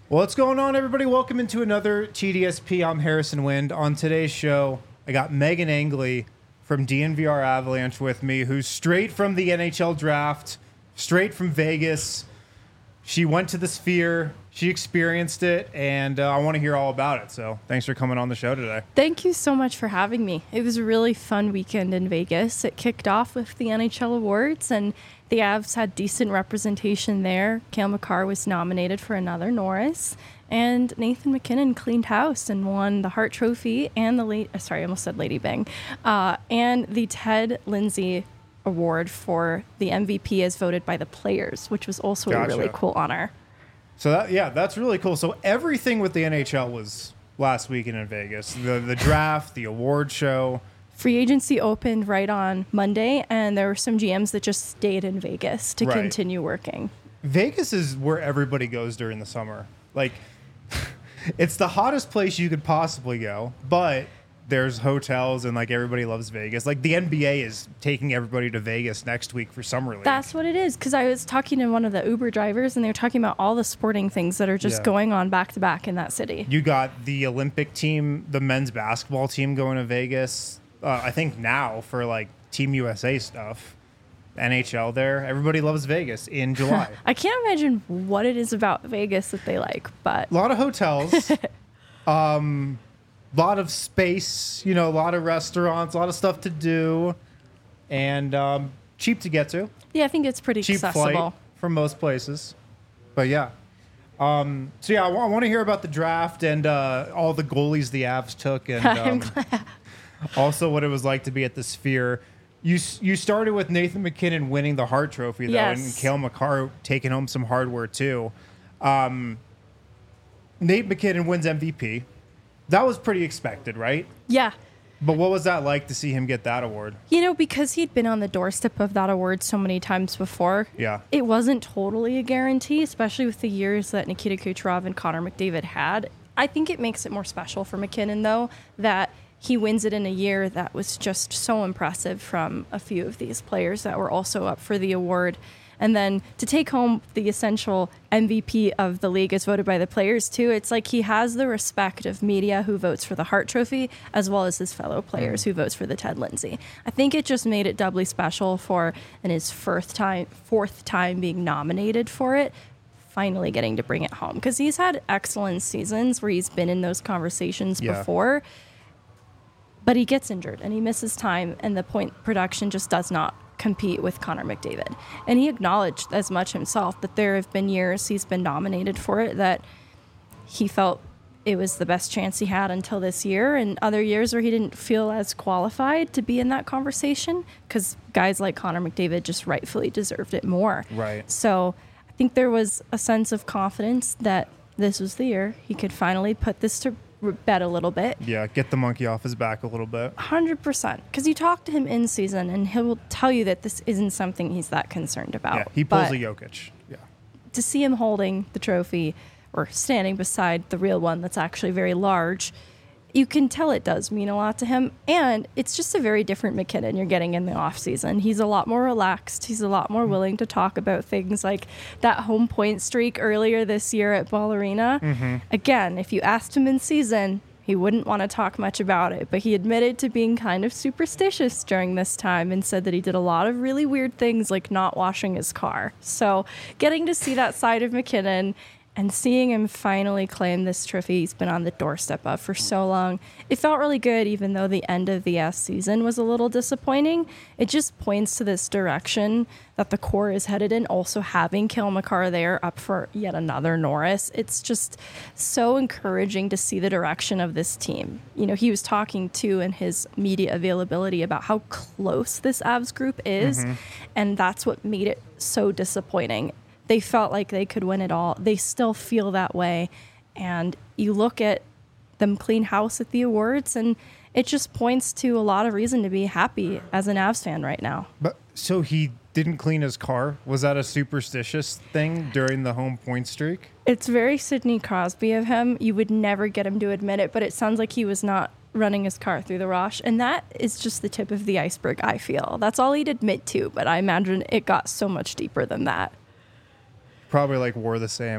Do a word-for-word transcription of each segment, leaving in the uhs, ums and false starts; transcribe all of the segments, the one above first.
What's going on, everybody? Welcome into another T D S P. I'm Harrison Wind. On today's show, I got Megan Angley from D N V R Avalanche with me, who's straight from the N H L draft, straight from Vegas. She went to the Sphere, she experienced it, and uh, I want to hear all about it. So thanks for coming on the show today. Thank you so much for having me. It was a really fun weekend in Vegas. It kicked off with the N H L awards, and the Avs had decent representation there. Cale Makar was nominated for another Norris, and Nathan MacKinnon cleaned house and won the Hart Trophy and the late, uh, sorry, I almost said Lady Bang, uh, and the Ted Lindsay Award for the M V P as voted by the players, which was also Gotcha. a really cool honor. So that, yeah, that's really cool. So everything with the N H L was last weekend in Vegas. The the draft, the award show. Free agency opened right on Monday, and there were some G Ms that just stayed in Vegas to Right. continue working. Vegas is where everybody goes during the summer. Like, it's the hottest place you could possibly go, but there's hotels and like everybody loves Vegas. Like the N B A is taking everybody to Vegas next week for summer league. That's what it is, because I was talking to one of the Uber drivers, and they were talking about all the sporting things that are just Yeah. going on back to back in that city. You got the Olympic team, the men's basketball team going to Vegas. Uh, I think now for like Team U S A stuff. N H L there. Everybody loves Vegas in July. I can't imagine what it is about Vegas that they like, but A lot of hotels, um, lot of space, you know, a lot of restaurants, a lot of stuff to do, and um, cheap to get to. yeah, I think it's pretty Cheap accessible. flight from most places. But yeah. Um, so yeah, I, w- I want to hear about the draft and uh, all the goalies the Avs took, and I'm um, also what it was like to be at the Sphere. You s- you started with Nathan MacKinnon winning the Hart Trophy, though, Yes. and Cale Makar taking home some hardware, too. Um, Nate MacKinnon wins M V P. That was pretty expected, right? Yeah. But what was that like to see him get that award? You know, because he'd been on the doorstep of that award so many times before, Yeah. it wasn't totally a guarantee, especially with the years that Nikita Kucherov and Connor McDavid had. I think it makes it more special for MacKinnon, though, that he wins it in a year that was just so impressive from a few of these players that were also up for the award. And then to take home the essential M V P of the league as voted by the players, too, it's like he has the respect of media who votes for the Hart Trophy, as well as his fellow players who votes for the Ted Lindsay. I think it just made it doubly special for, in his fourth time, fourth time being nominated for it, finally getting to bring it home. Because he's had excellent seasons where he's been in those conversations Yeah. before, but he gets injured and he misses time, and the point production just does not compete with Connor McDavid. And he acknowledged as much himself that there have been years he's been nominated for it that he felt it was the best chance he had until this year, and other years where he didn't feel as qualified to be in that conversation because guys like Connor McDavid just rightfully deserved it more. Right. So I think there was a sense of confidence that this was the year he could finally put this to bed a little bit. Yeah, get the monkey off his back a little bit. one hundred percent. Because you talk to him in season, and he'll tell you that this isn't something he's that concerned about. Yeah, he pulls But a Jokic. Yeah. to see him holding the trophy or standing beside the real one that's actually very large, you can tell it does mean a lot to him. And it's just a very different MacKinnon you're getting in the offseason. He's a lot more relaxed. He's a lot more willing to talk about things like that home point streak earlier this year at Ball Arena. Mm-hmm. Again, if you asked him in season, he wouldn't want to talk much about it, but he admitted to being kind of superstitious during this time and said that he did a lot of really weird things like not washing his car. So getting to see that side of MacKinnon and seeing him finally claim this trophy he's been on the doorstep of for so long, it felt really good, even though the end of the S season was a little disappointing. It just points to this direction that the core is headed in. Also having Cale Makar there up for yet another Norris, it's just so encouraging to see the direction of this team. You know, he was talking too in his media availability about how close this Avs group is, Mm-hmm. and that's what made it so disappointing. They felt like they could win it all. They still feel that way. And you look at them clean house at the awards, and it just points to a lot of reason to be happy as an Avs fan right now. But so he didn't clean his car? Was that a superstitious thing during the home point streak? It's very Sidney Crosby of him. You would never get him to admit it, but it sounds like he was not running his car through the Rosh. And that is just the tip of the iceberg, I feel. That's all he'd admit to, but I imagine it got so much deeper than that. Probably like wore the same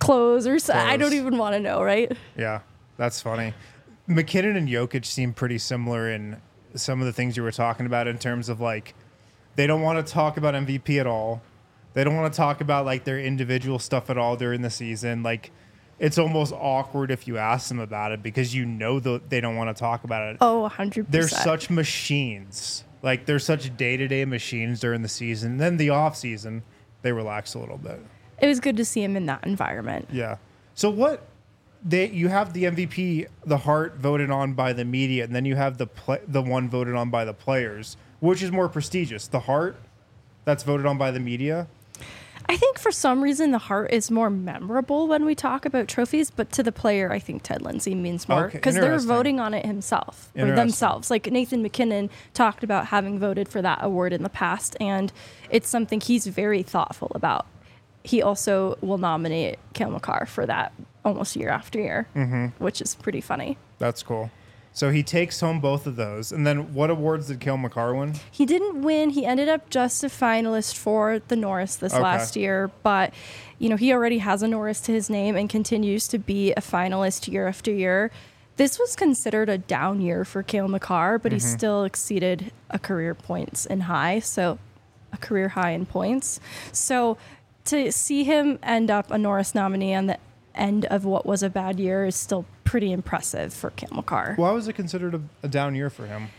clothes or so. I don't Clothes. even want to know, right? Yeah, that's funny. McKinnon and Jokic seem pretty similar in some of the things you were talking about in terms of like they don't want to talk about M V P at all. They don't want to talk about like their individual stuff at all during the season. Like it's almost awkward if you ask them about it because you know that they don't want to talk about it. Oh, one hundred percent. They're such machines. Like they're such day-to-day machines during the season. Then the off season, they relax a little bit. It was good to see him in that environment. Yeah. So what they you have the M V P, the Hart voted on by the media, and then you have the play, the one voted on by the players. Which is more prestigious, the Hart that's voted on by the media? I think for some reason the Hart is more memorable when we talk about trophies, but to the player, I think Ted Lindsay means more Okay, because they're interesting. voting on it himself or Interesting. themselves. Like Nathan McKinnon talked about having voted for that award in the past, and it's something he's very thoughtful about. He also will nominate Cale Makar for that almost year after year, mm-hmm. which is pretty funny. That's cool. So he takes home both of those. And then what awards did Cale Makar win? He didn't win. He ended up just a finalist for the Norris this Okay. last year, but you know, he already has a Norris to his name and continues to be a finalist year after year. This was considered a down year for Cale Makar, but Mm-hmm. he still exceeded a career points in high, so a career high in points. So to see him end up a Norris nominee on the end of what was a bad year is still pretty impressive for Cale Makar. Why was it considered a, a down year for him?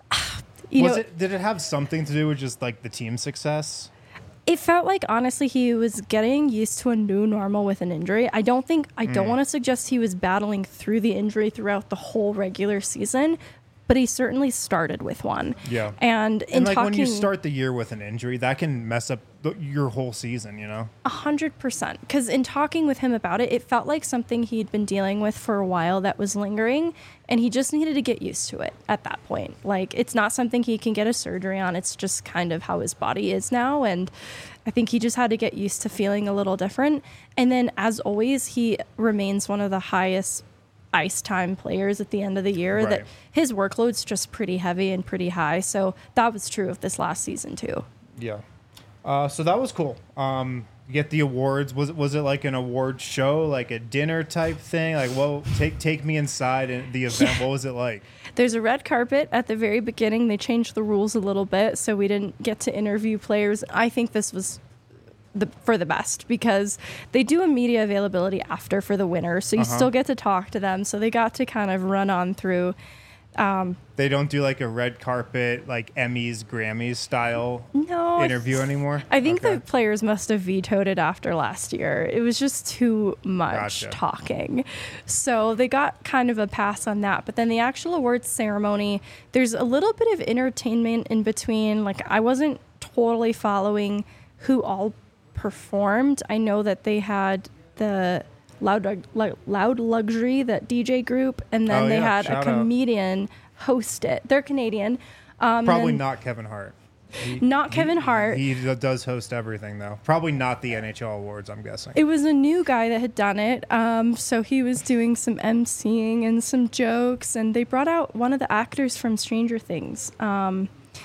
You was know, it did it have something to do with just like the team success? it felt like honestly he was getting used to a new normal with an injury. I don't think I don't Mm. want to suggest he was battling through the injury throughout the whole regular season, but he certainly started with one. Yeah. And in And like talking when you start the year with an injury, that can mess up the, your whole season, you know? A hundred percent. Because in talking with him about it, it felt like something he'd been dealing with for a while that was lingering, and he just needed to get used to it at that point. Like, it's not something he can get a surgery on. It's just kind of how his body is now, and I think he just had to get used to feeling a little different. And then, as always, he remains one of the highest ice time players at the end of the year. Right. That his workload's just pretty heavy and pretty high. So that was true of this last season too. Yeah. Uh, so that was cool. Um, you get the awards. Was it was it like an award show, like a dinner type thing? Like, well, take take me inside and the event. What was it like? There's a red carpet at the very beginning. They changed the rules a little bit, so we didn't get to interview players. I think this was the for the best because they do a media availability after for the winner, so you Uh-huh. still get to talk to them. So they got to kind of run on through. They don't do like a red carpet, like Emmys, Grammys style No, interview anymore. I think Okay. the players must have vetoed it after last year. It was just too much Gotcha. talking. So they got kind of a pass on that. But then the actual awards ceremony, there's a little bit of entertainment in between. Like, I wasn't totally following who all performed. I know that they had the Loud, Lug- Loud Luxury, that D J group, and then Oh, they yeah. had Shout a out. comedian host it. They're Canadian. Um, Probably and then- not Kevin Hart. He- Not Kevin he- Hart. He d- does host everything though. Probably not the N H L awards. I'm guessing. It was a new guy that had done it. Um, so he was doing some emceeing and some jokes, and they brought out one of the actors from Stranger Things. Um,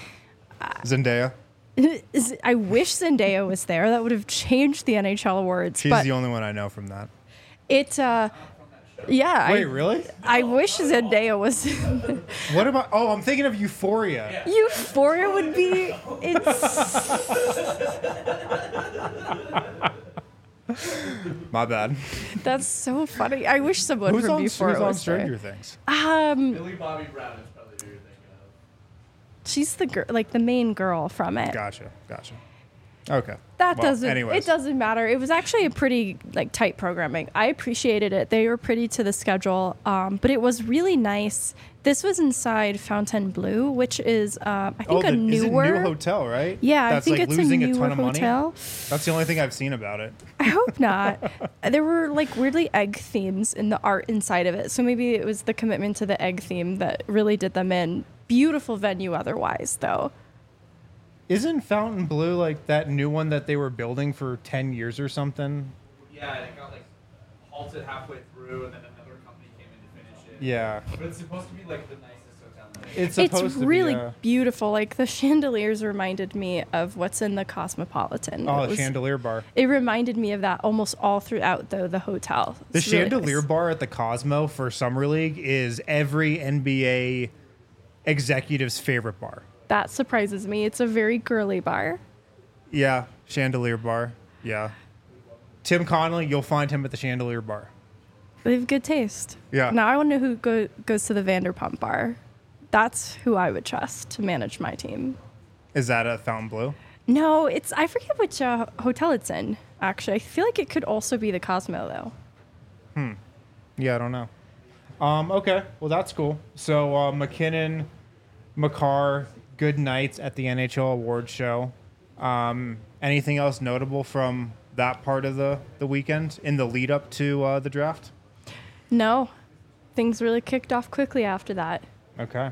Zendaya. is- I wish Zendaya was there. That would have changed the N H L awards. She's but the only one I know from that. it, uh, yeah. Wait, I, really? I wish Zendaya was. What about? Oh, I'm thinking of Euphoria. Euphoria would be. It's. My bad. That's so funny. I wish someone Who's from on, who's Euphoria on was there. Stranger Things? Um, Billy Bobby Brown is probably who you're thinking of. she's the girl, like the main girl from it. Gotcha. Gotcha. Okay. That Well, doesn't. anyways. It doesn't matter. It was actually a pretty like tight programming. I appreciated it. They were pretty to the schedule, um, but it was really nice. This was inside Fontainebleau, which is uh, I think Oh, a the, is it newer. new hotel, right? Yeah, That's I think like it's losing a a, newer ton of money. hotel. That's the only thing I've seen about it. I hope not. There were like weirdly egg themes in the art inside of it, so maybe it was the commitment to the egg theme that really did them in. Beautiful venue, otherwise, though. Isn't Fountain Blue like that new one that they were building for ten years or something? Yeah, it got like halted halfway through, and then another company came in to finish it. Yeah. But it's supposed to be like the nicest hotel in It's supposed It's to really be a, beautiful. Like the chandeliers reminded me of what's in the Cosmopolitan. oh, It a was- chandelier bar. It reminded me of that almost all throughout though the hotel. The It's really chandelier nice. bar at the Cosmo for Summer League is every N B A executive's favorite bar. That surprises me. It's a very girly bar. Yeah, chandelier bar. Yeah. Tim Connolly, you'll find him at the chandelier bar. They have good taste. Yeah. Now I want to know who go, goes to the Vanderpump bar. That's who I would trust to manage my team. Is that a Fountain Blue? No, it's I forget which uh, hotel it's in. Actually, I feel like it could also be the Cosmo though. Yeah, I don't know. Um, okay, well that's cool. So uh, McKinnon, McCarr, good nights at the N H L Awards show. Um, anything else notable from that part of the, the weekend in the lead up to uh, the draft? No, things really kicked off quickly after that. Okay.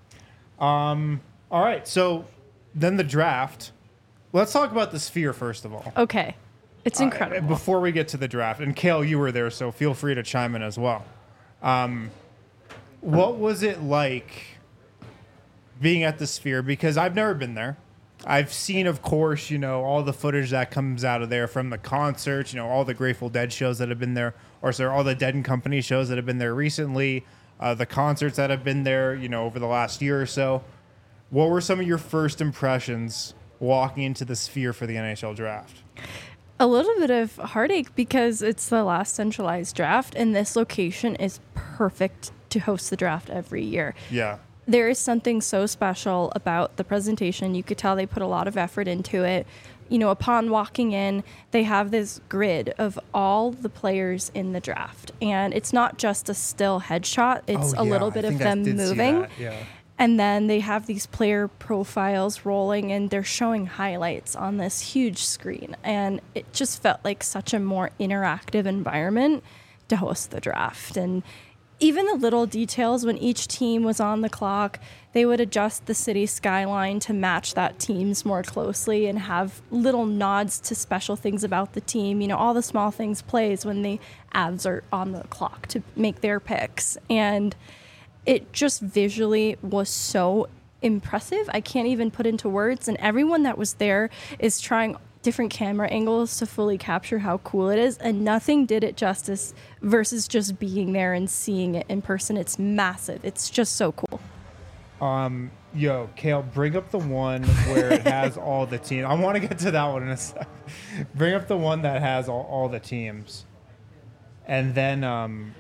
Um, all right, so then the draft. Let's talk about the Sphere first of all. Okay, it's Uh, incredible. before we get to the draft, and Kale, you were there, so feel free to chime in as well. Um, what was it like being at the Sphere? Because I've never been there. I've seen, of course, you know, all the footage that comes out of there from the concerts, you know, all the Grateful Dead shows that have been there, or sorry, all the Dead and Company shows that have been there recently, uh, the concerts that have been there, you know, over the last year or so. What were some of your first impressions walking into the Sphere for the N H L draft? A little bit of heartache because it's the last centralized draft, and this location is perfect to host the draft every year. Yeah. There is something so special about the presentation. You could tell they put a lot of effort into it. You know, upon walking in, they have this grid of all the players in the draft. And it's not just a still headshot, it's Oh, a yeah, little I bit of think I them did see moving. that, yeah. And then they have these player profiles rolling and they're showing highlights on this huge screen. And it just felt like such a more interactive environment to host the draft. And even the little details, when each team was on the clock, they would adjust the city skyline to match that team's more closely and have little nods to special things about the team. You know, all the small things plays when the Avs are on the clock to make their picks. And it just visually was so impressive. I can't even put into words. And everyone that was there is trying different camera angles to fully capture how cool it is. And nothing did it justice versus just being there and seeing it in person. It's massive. It's just so cool. Um, yo, Kale, bring up the one where it has all the teams. I want to get to that one in a sec. Bring up the one that has all, all the teams. And then, um,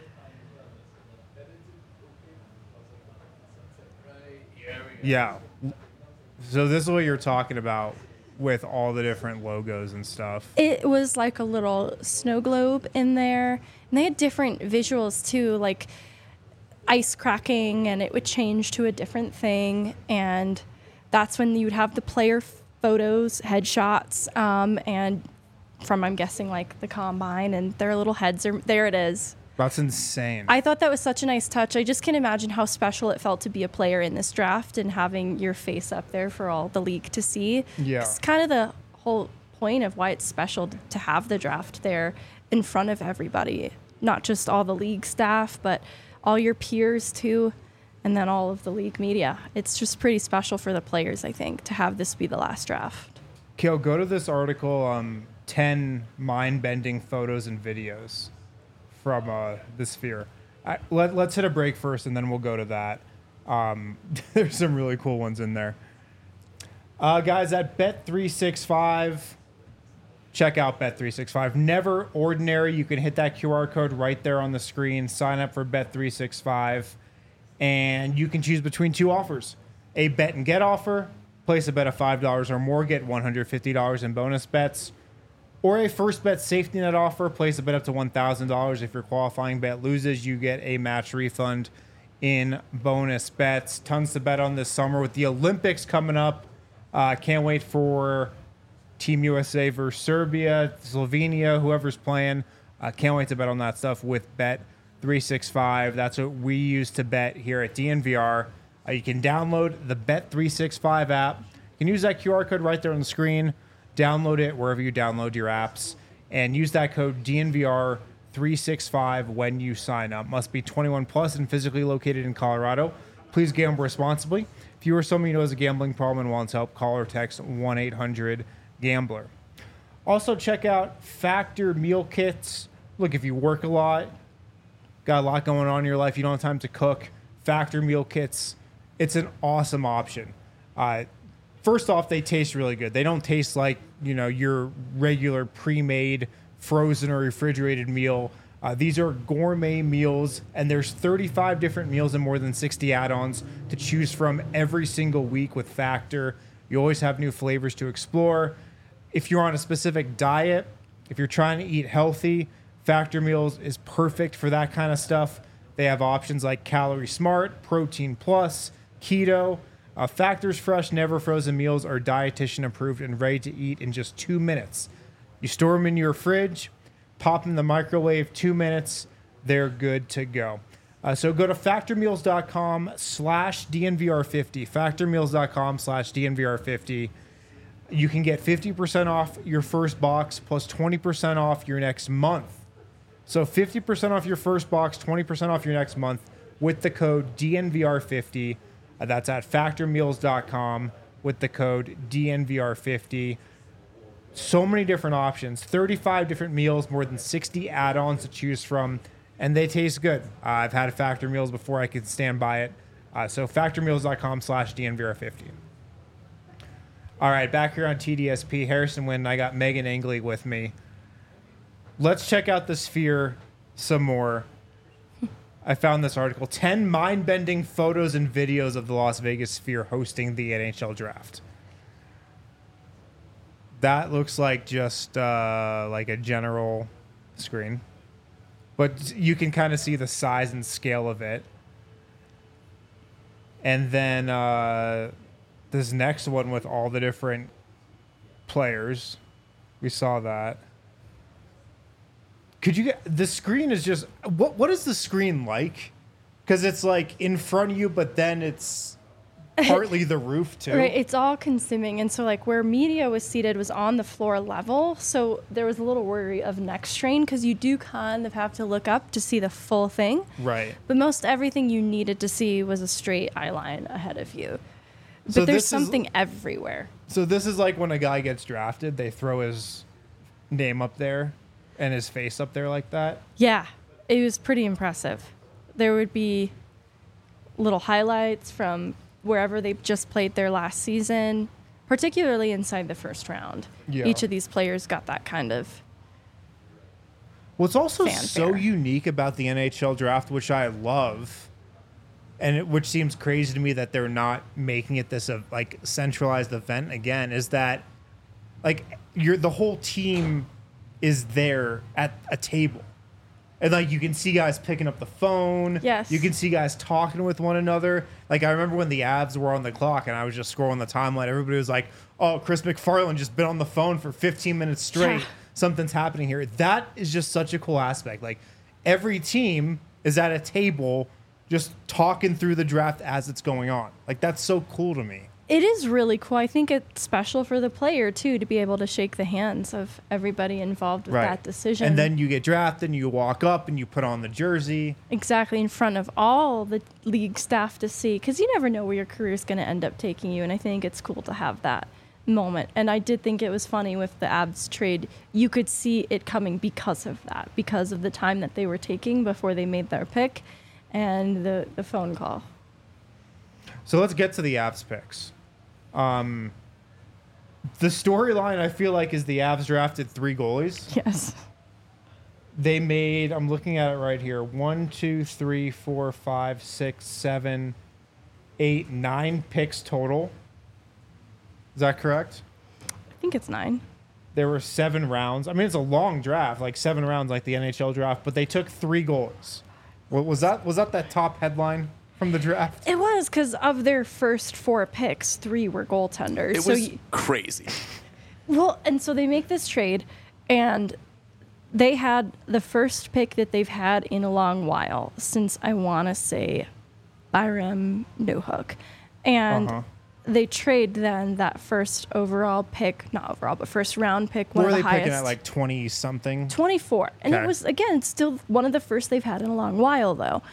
yeah. So this is what you're talking about with all the different logos and stuff. It was like a little snow globe in there. And they had different visuals too, like ice cracking, and it would change to a different thing. And that's when you would have the player photos, headshots, um, and from, I'm guessing, like the combine, and their little heads are there. It is. That's insane. I thought that was such a nice touch. I just can't imagine how special it felt to be a player in this draft and having your face up there for all the league to see. Yeah. It's kind of the whole point of why it's special to have the draft there in front of everybody, not just all the league staff, but all your peers too, and then all of the league media. It's just pretty special for the players, I think, to have this be the last draft. Kale, go to this article, um, ten mind-bending photos and videos from uh, the Sphere. I, let, let's hit a break first, and then we'll go to that. Um, there's some really cool ones in there. Uh, guys, at Bet three sixty-five, check out Bet three sixty-five. Never ordinary. You can hit that Q R code right there on the screen. Sign up for Bet three sixty-five, and you can choose between two offers. A bet and get offer. Place a bet of five dollars or more, get one hundred fifty dollars in bonus bets. Or a first bet safety net offer. Place a bet up to one thousand dollars. If your qualifying bet loses, you get a match refund in bonus bets. Tons to bet on this summer with the Olympics coming up. Uh, can't wait for Team U S A versus Serbia, Slovenia, whoever's playing. Uh, can't wait to bet on that stuff with Bet three sixty-five. That's what we use to bet here at D N V R. Uh, you can download the Bet three sixty-five app. You can use that Q R code right there on the screen. Download it wherever you download your apps, and use that code D N V R three sixty-five when you sign up. Must be twenty-one plus and physically located in Colorado. Please gamble responsibly. If you or someone you know has a gambling problem and wants help, call or text one eight hundred gambler. Also, check out Factor meal kits. Look, if you work a lot, got a lot going on in your life, you don't have time to cook, Factor meal kits, it's an awesome option. Uh, first off, they taste really good. They don't taste like, you know, your regular pre-made frozen or refrigerated meal. Uh, these are gourmet meals, and there's thirty-five different meals and more than sixty add-ons to choose from every single week with Factor. You always have new flavors to explore. If you're on a specific diet, if you're trying to eat healthy, Factor Meals is perfect for that kind of stuff. They have options like Calorie Smart, Protein Plus, Keto. Uh, Factor's fresh, never frozen meals are dietitian approved and ready to eat in just two minutes. You store them in your fridge, pop them in the microwave, two minutes, they're good to go. Uh, so go to factormeals.com slash DNVR50, factormeals.com slash DNVR50. You can get fifty percent off your first box plus twenty percent off your next month. So fifty percent off your first box, twenty percent off your next month with the code D N V R fifty. Uh, that's at factormeals dot com with the code D N V R fifty. So many different options, thirty-five different meals, more than sixty add-ons to choose from, and they taste good. Uh, I've had Factor Meals before. I can stand by it. Uh, so factormeals.com slash DNVR50. All right, back here on T D S P, Harrison Wind, I got Megan Angley with me. Let's check out the Sphere some more. I found this article, ten mind-bending photos and videos of the Las Vegas Sphere hosting the N H L Draft. That looks like just uh, like a general screen. But you can kind of see the size and scale of it. And then uh, this next one with all the different players. We saw that. Could you get... The screen is just... What What is the screen like? Because it's like in front of you, but then it's... partly the roof too. Right, it's all consuming, and so like where media was seated was on the floor level, so there was a little worry of neck strain because you do kind of have to look up to see the full thing. Right. But most everything you needed to see was a straight eye line ahead of you. But So there's this is- something everywhere. So this is like when a guy gets drafted, they throw his name up there and his face up there like that. Yeah, it was pretty impressive. There would be little highlights from wherever they just played their last season, particularly inside the first round. Yeah. Each of these players got that kind of... What's also so fanfare. unique about the N H L draft, which I love, and it, which seems crazy to me that they're not making it this uh, like centralized event again, is that like you're the whole team is there at a table. And like you can see guys picking up the phone. Yes. You can see guys talking with one another. Like I remember when the Avs were on the clock and I was just scrolling the timeline. Everybody was like, "Oh, Chris McFarland just been on the phone for fifteen minutes straight. Yeah. Something's happening here." That is just such a cool aspect. Like every team is at a table just talking through the draft as it's going on. Like that's so cool to me. It is really cool. I think it's special for the player, too, to be able to shake the hands of everybody involved with that decision. And then you get drafted and you walk up and you put on the jersey. Exactly, in front of all the league staff to see, because you never know where your career is going to end up taking you, and I think it's cool to have that moment. And I did think it was funny with the Avs trade. You could see it coming because of that, because of the time that they were taking before they made their pick and the, the phone call. So let's get to the Avs picks. Um, the storyline I feel like is the Avs drafted three goalies. Yes. They made, I'm looking at it right here, one, two, three, four, five, six, seven, eight, nine picks total. Is that correct? I think it's nine. There were seven rounds. I mean, it's a long draft, like seven rounds, like the N H L draft. But they took three goalies. What was that? Was that that top headline from the draft? It was because of their first four picks, three were goaltenders. It so was y- crazy. well, and so they make this trade, and they had the first pick that they've had in a long while since I want to say Byram Newhook, and Uh-huh. they trade then that first overall pick, not overall, but first round pick, What one were of they the picking highest. at, like twenty something? twenty-four. And Okay. it was, again, still one of the first they've had in a long while, though.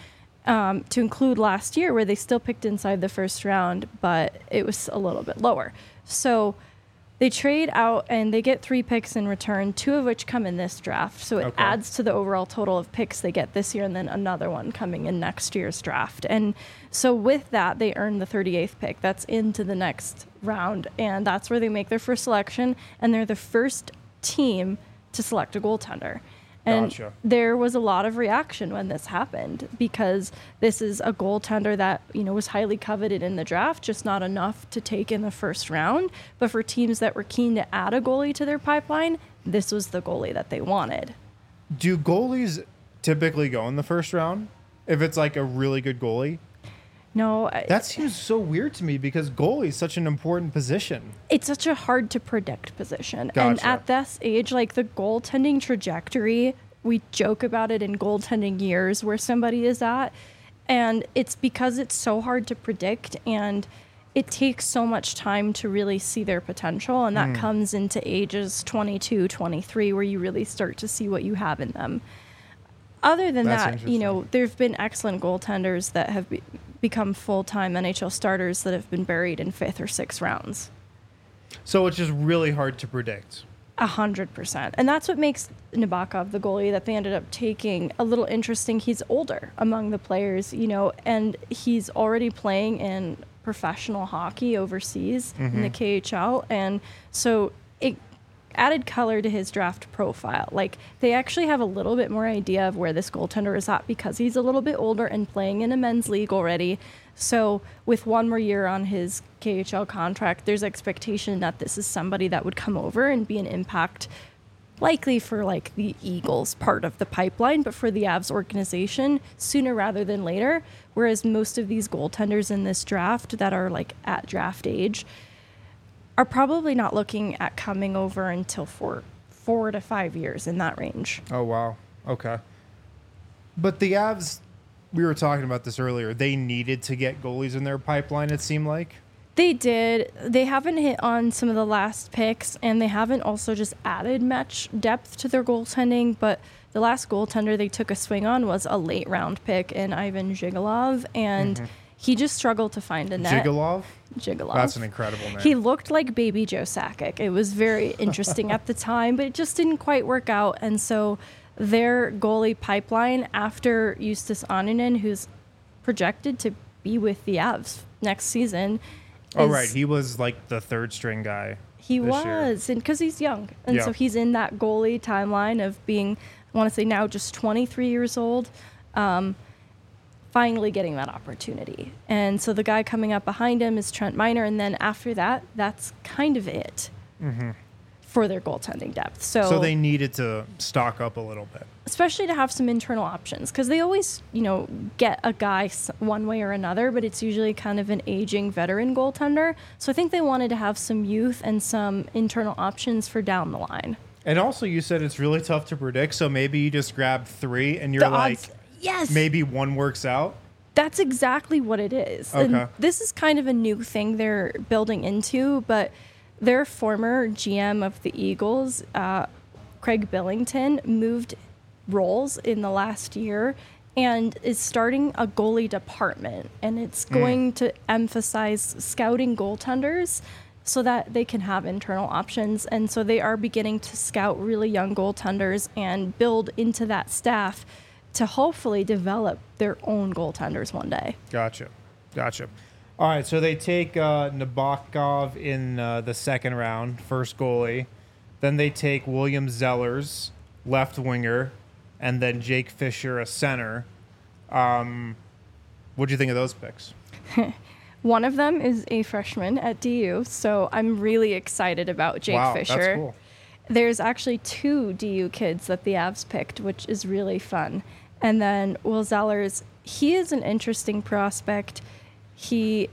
um, to include last year where they still picked inside the first round, but it was a little bit lower. So they trade out and they get three picks in return, two of which come in this draft. So it Okay. adds to the overall total of picks they get this year and then another one coming in next year's draft. And so with that, they earn the thirty-eighth pick. That's into the next round. And that's where they make their first selection. And they're the first team to select a goaltender. And Gotcha. there was a lot of reaction when this happened because this is a goaltender that, you know, was highly coveted in the draft, just not enough to take in the first round. But for teams that were keen to add a goalie to their pipeline, this was the goalie that they wanted. Do goalies typically go in the first round if it's like a really good goalie? No, I- That seems so weird to me because goalie is such an important position. it's such a hard to predict position. Gotcha. And at this age, like the goaltending trajectory, we joke about it in goaltending years where somebody is at. And it's because it's so hard to predict and it takes so much time to really see their potential. And Hmm. that comes into ages twenty-two, twenty-three, where you really start to see what you have in them. Other than That's that, you interesting. know, there have been excellent goaltenders that have be- become full-time N H L starters that have been buried in fifth or sixth rounds. So it's just really hard to predict. A hundred percent. And that's what makes Nabokov, the goalie that they ended up taking, a little interesting. He's older among the players, you know, and he's already playing in professional hockey overseas in the K H L. And so it added color to his draft profile. Like they actually have a little bit more idea of where this goaltender is at because he's a little bit older and playing in a men's league already. So with one more year on his K H L contract, there's expectation that this is somebody that would come over and be an impact likely for like the Eagles part of the pipeline, but for the Avs organization sooner rather than later. Whereas most of these goaltenders in this draft that are like at draft age are probably not looking at coming over until four, four to five years in that range. Oh, wow. Okay. But the Avs, we were talking about this earlier, they needed to get goalies in their pipeline, it seemed like. They did. They haven't hit on some of the last picks, and they haven't also just added much depth to their goaltending. But the last goaltender they took a swing on was a late round pick in Ivan Zhigalov, and he just struggled to find a net. Gigolov? Zhigalov. That's an incredible name. He looked like baby Joe Sakic. It was very interesting at the time, but it just didn't quite work out. And so their goalie pipeline after Justus Annunen, who's projected to be with the Avs next season. oh, is- right. He was like the third string guy. He this year. was, and because he's young. And Yeah. so he's in that goalie timeline of being, I want to say now just twenty-three years old. Um, finally getting that opportunity. And so the guy coming up behind him is Trent Miner. And then after that, that's kind of it for their goaltending depth. So, So they needed to stock up a little bit. especially to have some internal options, because they always, you know, get a guy s- one way or another, but it's usually kind of an aging veteran goaltender. So I think they wanted to have some youth and some internal options for down the line. And also, you said it's really tough to predict, so maybe you just grab three and you're The like, odds- yes. maybe one works out. That's exactly what it is. Okay. And this is kind of a new thing they're building into, but their former G M of the Eagles, uh, Craig Billington, moved roles in the last year and is starting a goalie department. And it's going to emphasize scouting goaltenders so that they can have internal options. And so they are beginning to scout really young goaltenders and build into that staff to hopefully develop their own goaltenders one day. Gotcha. Gotcha. All right, so they take uh, Nabokov in uh, the second round, first goalie. Then they take William Zellers, left winger, and then Jake Fisher, a center. Um, what do you think of those picks? One of them is a freshman at D U, so I'm really excited about Jake wow, Fisher. that's cool. There's actually two D U kids that the Avs picked, which is really fun. And then Will Zellers, he is an interesting prospect. He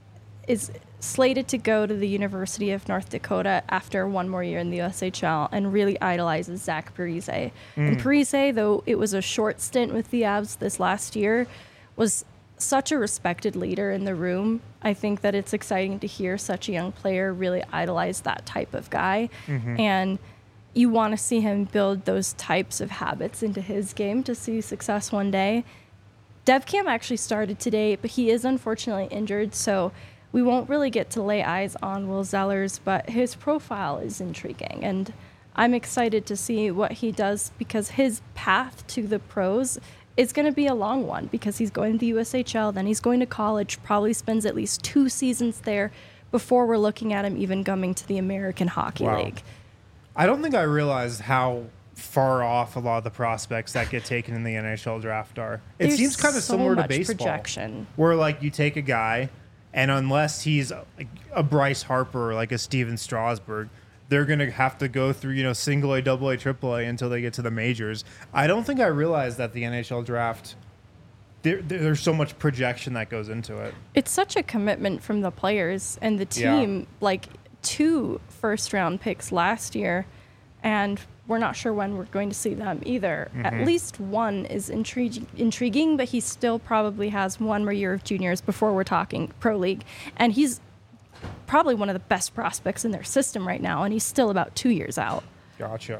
is slated to go to the University of North Dakota after one more year in the U S H L and really idolizes Zach Parise. And Parise, though it was a short stint with the Avs this last year, was such a respected leader in the room. I think that it's exciting to hear such a young player really idolize that type of guy. And you want to see him build those types of habits into his game to see success one day. DevCam actually started today, but he is unfortunately injured, so we won't really get to lay eyes on Will Zellers, but his profile is intriguing, and I'm excited to see what he does because his path to the pros is going to be a long one because he's going to the U S H L, then he's going to college, probably spends at least two seasons there before we're looking at him even coming to the American Hockey Wow. League. I don't think I realized how far off a lot of the prospects that get taken in the N H L draft are. It There's seems kind of so similar to much baseball, projection. where like you take a guy, and unless he's a, a Bryce Harper or like a Steven Strasburg, they're gonna have to go through you know single A, double A, triple A until they get to the majors. I don't think I realized that the N H L draft. There, there's so much projection that goes into it. It's such a commitment from the players and the team, Yeah. like two first round picks last year, and we're not sure when we're going to see them either. Mm-hmm. At least one is intriguing, intriguing, but he still probably has one more year of juniors before we're talking pro league. And he's probably one of the best prospects in their system right now, and he's still about two years out. Gotcha.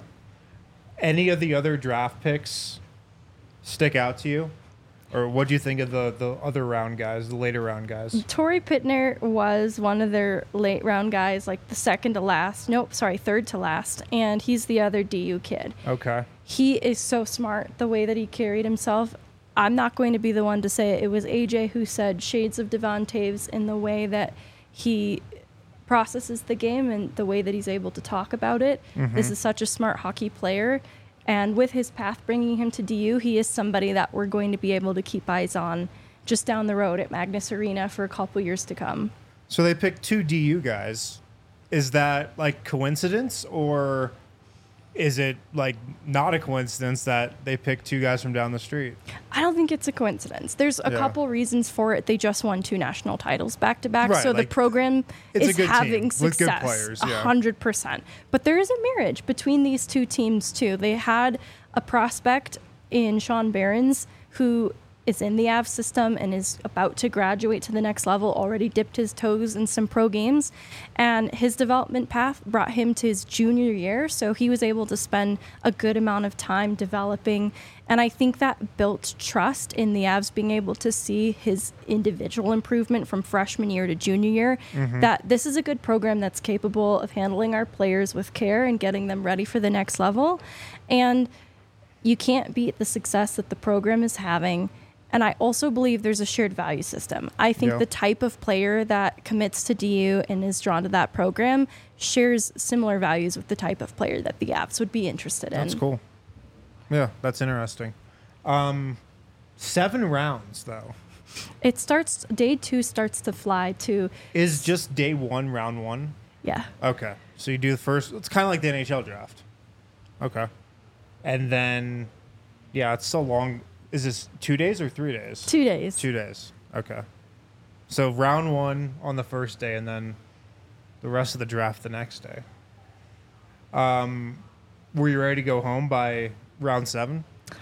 Any of the other draft picks stick out to you? Or what do you think of the, the other round guys, the later round guys? Torrey Pittner was one of their late round guys, like the second to last. Nope, sorry, third to last. And he's the other D U kid. Okay. He is so smart, the way that he carried himself. I'm not going to be the one to say it. It was A J who said shades of Devon Taves in the way that he processes the game and the way that he's able to talk about it. Mm-hmm. This is such a smart hockey player. And with his path bringing him to D U, he is somebody that we're going to be able to keep eyes on just down the road at Magnus Arena for a couple years to come. So they picked two D U guys. Is that like coincidence, or is it like not a coincidence that they picked two guys from down the street? I don't think it's a coincidence. There's a Yeah. couple reasons for it. They just won two national titles back to back, Right, so like, the program it's a is good team having with good success. players, yeah. A hundred percent. But there is a marriage between these two teams too. They had a prospect in Sean Behrens who is in the A V system and is about to graduate to the next level, already dipped his toes in some pro games. And his development path brought him to his junior year, so he was able to spend a good amount of time developing. And I think that built trust in the Avs being able to see his individual improvement from freshman year to junior year, that this is a good program that's capable of handling our players with care and getting them ready for the next level. And you can't beat the success that the program is having. And I also believe there's a shared value system. I think Yeah. the type of player that commits to D U and is drawn to that program shares similar values with the type of player that the Avs would be interested in. That's cool. Yeah, that's interesting. Um, seven rounds though. It starts, day two starts to fly to, Is just day one round one? yeah. Okay. So you do the first. It's kind of like the N H L draft. Okay. And then, yeah, it's so long. Is this two days or three days? Two days. Two days. Okay. So round one on the first day, and then the rest of the draft the next day. Um, were you ready to go home by round seven?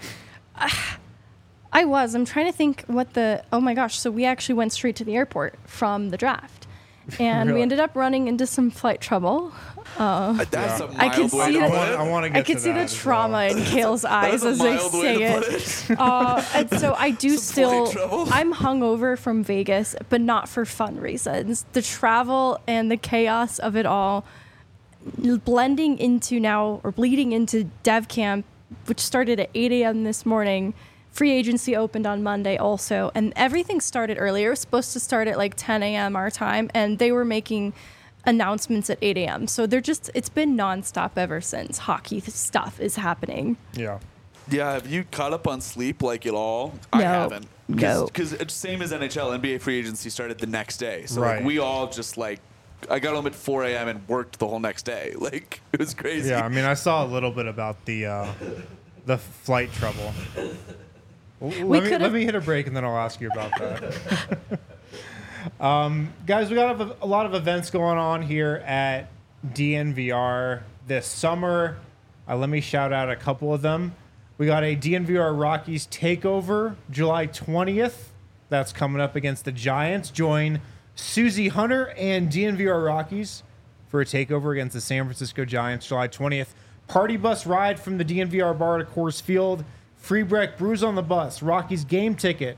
I was. I'm trying to think what the. Oh my gosh! So we actually went straight to the airport from the draft, and Really? we ended up running into some flight trouble. That's Yeah. a mild I can way see to that- put I it. want, I want to get I could to see that the as trauma well. in Kale's That eyes is a as they mild way say to it. put it. Uh, and so I do Some flight still. trouble. I'm hungover from Vegas, but not for fun reasons. The travel and the chaos of it all, blending into now or bleeding into Dev Camp, which started at eight a.m. this morning. Free agency opened on Monday also, and everything started earlier. It was supposed to start at like ten a.m. our time, and they were making announcements at eight a.m. So they're just, it's been nonstop ever since hockey stuff is happening. Yeah. Yeah, have you caught up on sleep like at all? I No. haven't. No. Because it's same as N H L, N B A free agency started the next day. So Right. like, we all just like, I got home at four a.m. and worked the whole next day. Like, it was crazy. Yeah, I mean, I saw a little bit about the uh, the flight trouble. L- let, me, could've- let me hit a break and then I'll ask you about that. um, guys, we got a, a lot of events going on here at D N V R this summer. Uh, let me shout out a couple of them. We got a D N V R Rockies takeover July twentieth. That's coming up against the Giants. Join Susie Hunter and D N V R Rockies for a takeover against the San Francisco Giants July twentieth. Party bus ride from the D N V R bar to Coors Field. Free Breck brews on the bus. Rockies game ticket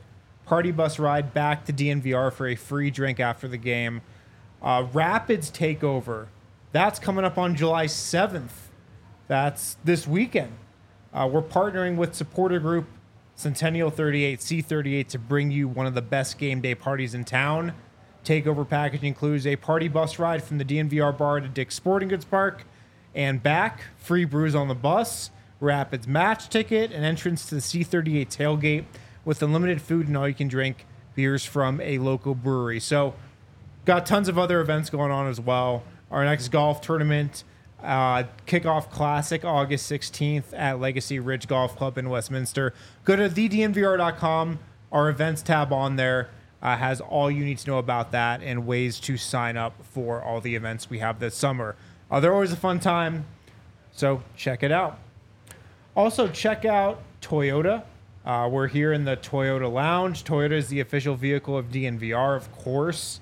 party bus ride back to D N V R for a free drink after the game. Uh, Rapids Takeover. That's coming up on July seventh. That's this weekend. Uh, we're partnering with supporter group Centennial thirty-eight C thirty-eight to bring you one of the best game day parties in town. Takeover package includes a party bus ride from the D N V R bar to Dick's Sporting Goods Park and back, free brews on the bus, Rapids match ticket, and entrance to the C thirty-eight tailgate with unlimited food and all you can drink beers from a local brewery. So got tons of other events going on as well. Our next golf tournament, uh, Kickoff Classic, August sixteenth at Legacy Ridge Golf Club in Westminster. Go to the d n v r dot com. Our events tab on there uh, has all you need to know about that and ways to sign up for all the events we have this summer. Uh, they're always a fun time, so check it out. Also, check out Toyota. Uh, we're here in the Toyota Lounge. Toyota is the official vehicle of D N V R, of course.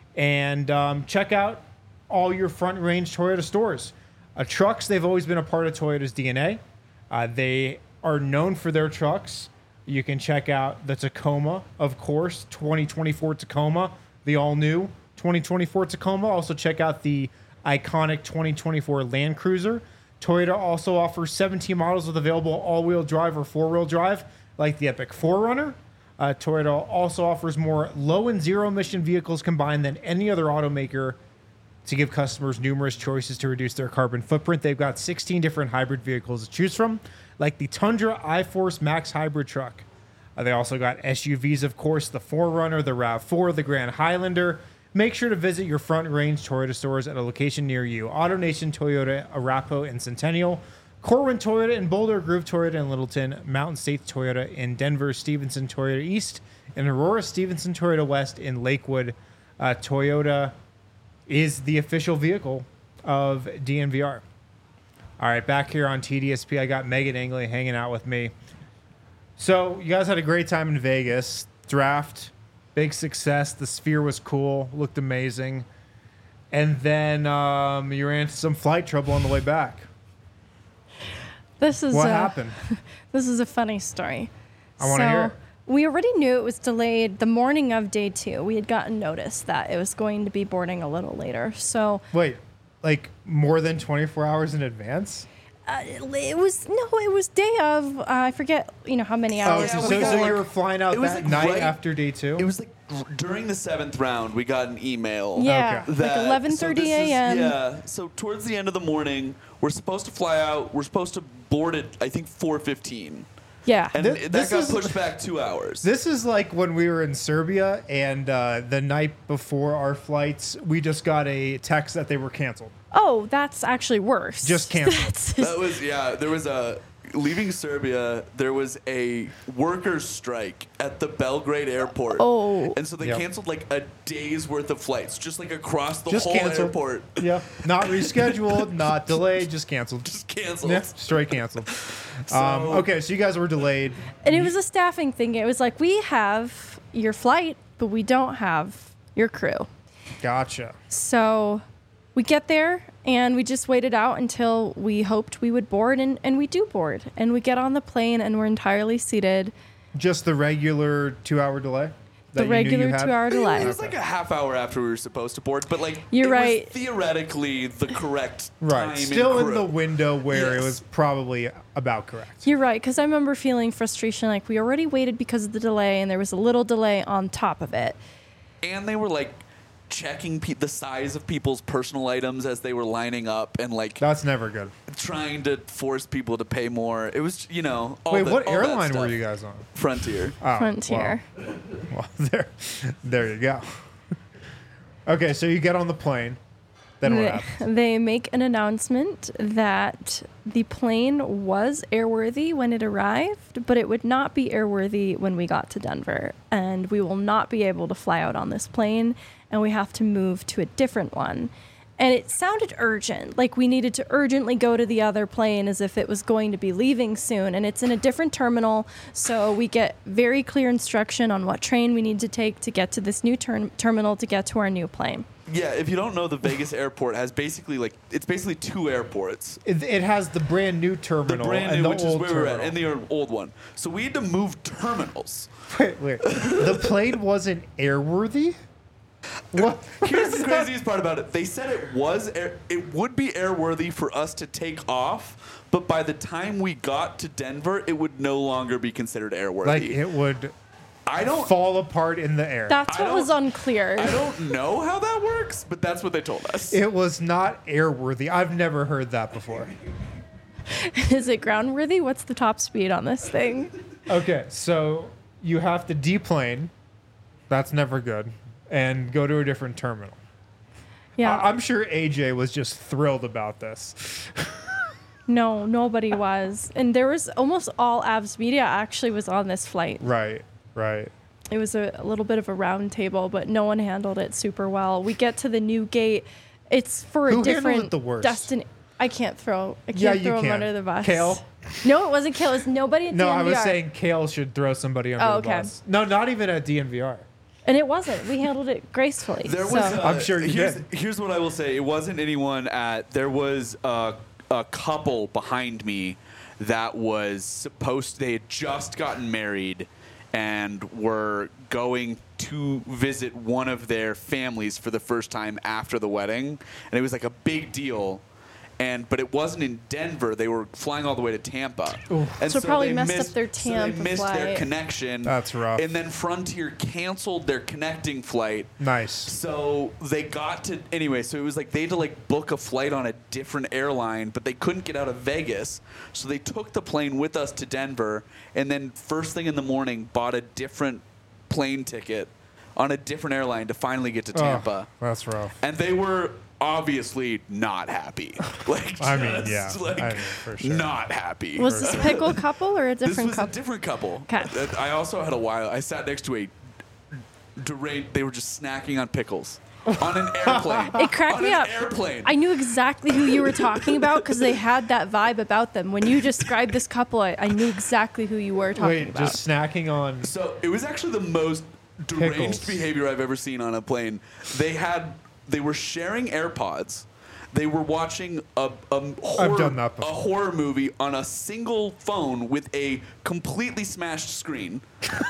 And um, check out all your Front Range Toyota stores. Uh, trucks, they've always been a part of Toyota's D N A. Uh, they are known for their trucks. You can check out the Tacoma, of course, twenty twenty-four Tacoma, the all-new twenty twenty-four Tacoma. Also check out the iconic twenty twenty-four Land Cruiser. Toyota also offers seventeen models with available all-wheel drive or four-wheel drive, like the Epic four runner. Uh, Toyota also offers more low and zero-emission vehicles combined than any other automaker to give customers numerous choices to reduce their carbon footprint. They've got sixteen different hybrid vehicles to choose from, like the Tundra iForce Max hybrid truck. Uh, they also got S U Vs, of course, the four runner, the RAV four, the Grand Highlander. Make sure to visit your Front Range Toyota stores at a location near you. AutoNation Toyota, Arapahoe, and Centennial. Corwin Toyota in Boulder, Groove Toyota in Littleton, Mountain States Toyota in Denver, Stevenson Toyota East, and Aurora Stevenson Toyota West in Lakewood. Uh, Toyota is the official vehicle of D N V R. All right, back here on T D S P, I got Megan Angley hanging out with me. So you guys had a great time in Vegas. Draft, big success. The Sphere was cool, looked amazing. And then um, you ran into some flight trouble on the way back. This is What a, happened? This is a funny story. I wanna so, hear it. We already knew it was delayed the morning of day two. We had gotten notice that it was going to be boarding a little later. So Wait, like more than twenty-four hours in advance? uh, it was no, it was day of. Uh, I forget, you know, how many Oh, hours. so, Yeah, so, we before. so got, you like- were flying out it was, that like, night right- after day two? It was like r- during the seventh round, we got an email. Yeah, Okay. like that- eleven so thirty this is- a.m. Yeah, so towards the end of the morning, we're supposed to fly out. We're supposed to board at, I think, four fifteen. Yeah. And Th- that this got is- pushed back two hours. This is like when we were in Serbia, and uh, the night before our flights, we just got a text that they were canceled. Oh, that's actually worse. Just canceled. That's- That was, yeah, there was a, leaving Serbia, there was a workers' strike at the Belgrade airport. Oh. And so they Yep. canceled like a day's worth of flights, just like across the Just whole canceled. airport. Yeah, not rescheduled, not delayed, just canceled. Just canceled. Yeah, straight canceled. So- um, okay, so you guys were delayed. And it was a staffing thing. It was like, we have your flight, but we don't have your crew. Gotcha. So we get there and we just waited out until we hoped we would board, and, and we do board. And we get on the plane and we're entirely seated. Just the regular two-hour delay. that The you knew you regular had? two-hour delay. It was like a half hour after we were supposed to board, but like You're it right. was theoretically the correct Right, time. still and in the crew. window where it Yes. was probably about correct. You're right, because I remember feeling frustration. Like, we already waited because of the delay, and there was a little delay on top of it. And they were like checking pe- the size of people's personal items as they were lining up and like That's never good. trying to force people to pay more. It was, you know, all Wait, the- what all that airline were stuff. you guys on? Frontier. Oh, Frontier. Well, well, there, there you go. Okay, so you get on the plane. Then what They, happens? they make an announcement that the plane was airworthy when it arrived, but it would not be airworthy when we got to Denver. And we will not be able to fly out on this plane, and we have to move to a different one. And it sounded urgent, like we needed to urgently go to the other plane as if it was going to be leaving soon. And it's in a different terminal, so we get very clear instruction on what train we need to take to get to this new ter- terminal to get to our new plane. Yeah, if you don't know, the Vegas airport has basically like it's basically two airports. It, it has the brand new The terminal brand and new, the which is old where we're at, terminal. and the old one. So we had to move terminals. Wait, wait. The plane wasn't airworthy? What? Here's the craziest part about it. They said it was air, it would be airworthy for us to take off, but by the time we got to Denver, it would no longer be considered airworthy. Like it would I don't fall apart in the air. That's I what was don't- unclear. I don't know how that works, but that's what they told us. It was not airworthy. I've never heard that before. Is it groundworthy? What's the top speed on this thing? Okay, so you have to deplane. That's never good. And go to a different terminal. Yeah. I- I'm sure A J was just thrilled about this. No, nobody was. And there was almost all Avs media actually was on this flight. Right, right. It was a, a little bit of a round table, but no one handled it super well. We get to the new gate. It's for Who a handled different it the worst? destination. I can't throw. I can't Yeah, you throw him can. under the bus. Kale? No, it wasn't Kale. It was nobody at No, I D N V R. was saying Kale should throw somebody under Oh, the okay. bus. No, not even at D N V R. And it wasn't. We handled it gracefully. There was. so. uh, I'm sure you here's, did. Here's what I will say. It wasn't anyone at. There was a, a couple behind me that was supposed. They had just gotten married, and were going to visit one of their families for the first time after the wedding, and it was like a big deal. And but it wasn't in Denver. They were flying all the way to Tampa, and So probably they messed up missed, their so they Tampa missed their flight. connection. That's rough. And then Frontier canceled their connecting flight. Nice. So they got to anyway. So it was like they had to like book a flight on a different airline, but they couldn't get out of Vegas. So they took the plane with us to Denver, and then first thing in the morning bought a different plane ticket on a different airline to finally get to Tampa. Oh, that's rough. And they were obviously not happy. Like I mean, just, yeah, like, I mean, for sure. not happy. Was this pickle couple or a This different was couple? a different couple. 'Kay. Uh, I also had a while. I sat next to a deranged. They were just snacking on pickles on an airplane. It cracked on me an up. Airplane. I knew exactly who you were talking about because they had that vibe about them. When you described this couple, I, I knew exactly who you were talking Wait, about. just snacking on. So it was actually the most deranged Pickles. behavior I've ever seen on a plane. They had. They were sharing AirPods. They were watching a, a, horror, done that a before. horror movie on a single phone with a completely smashed screen.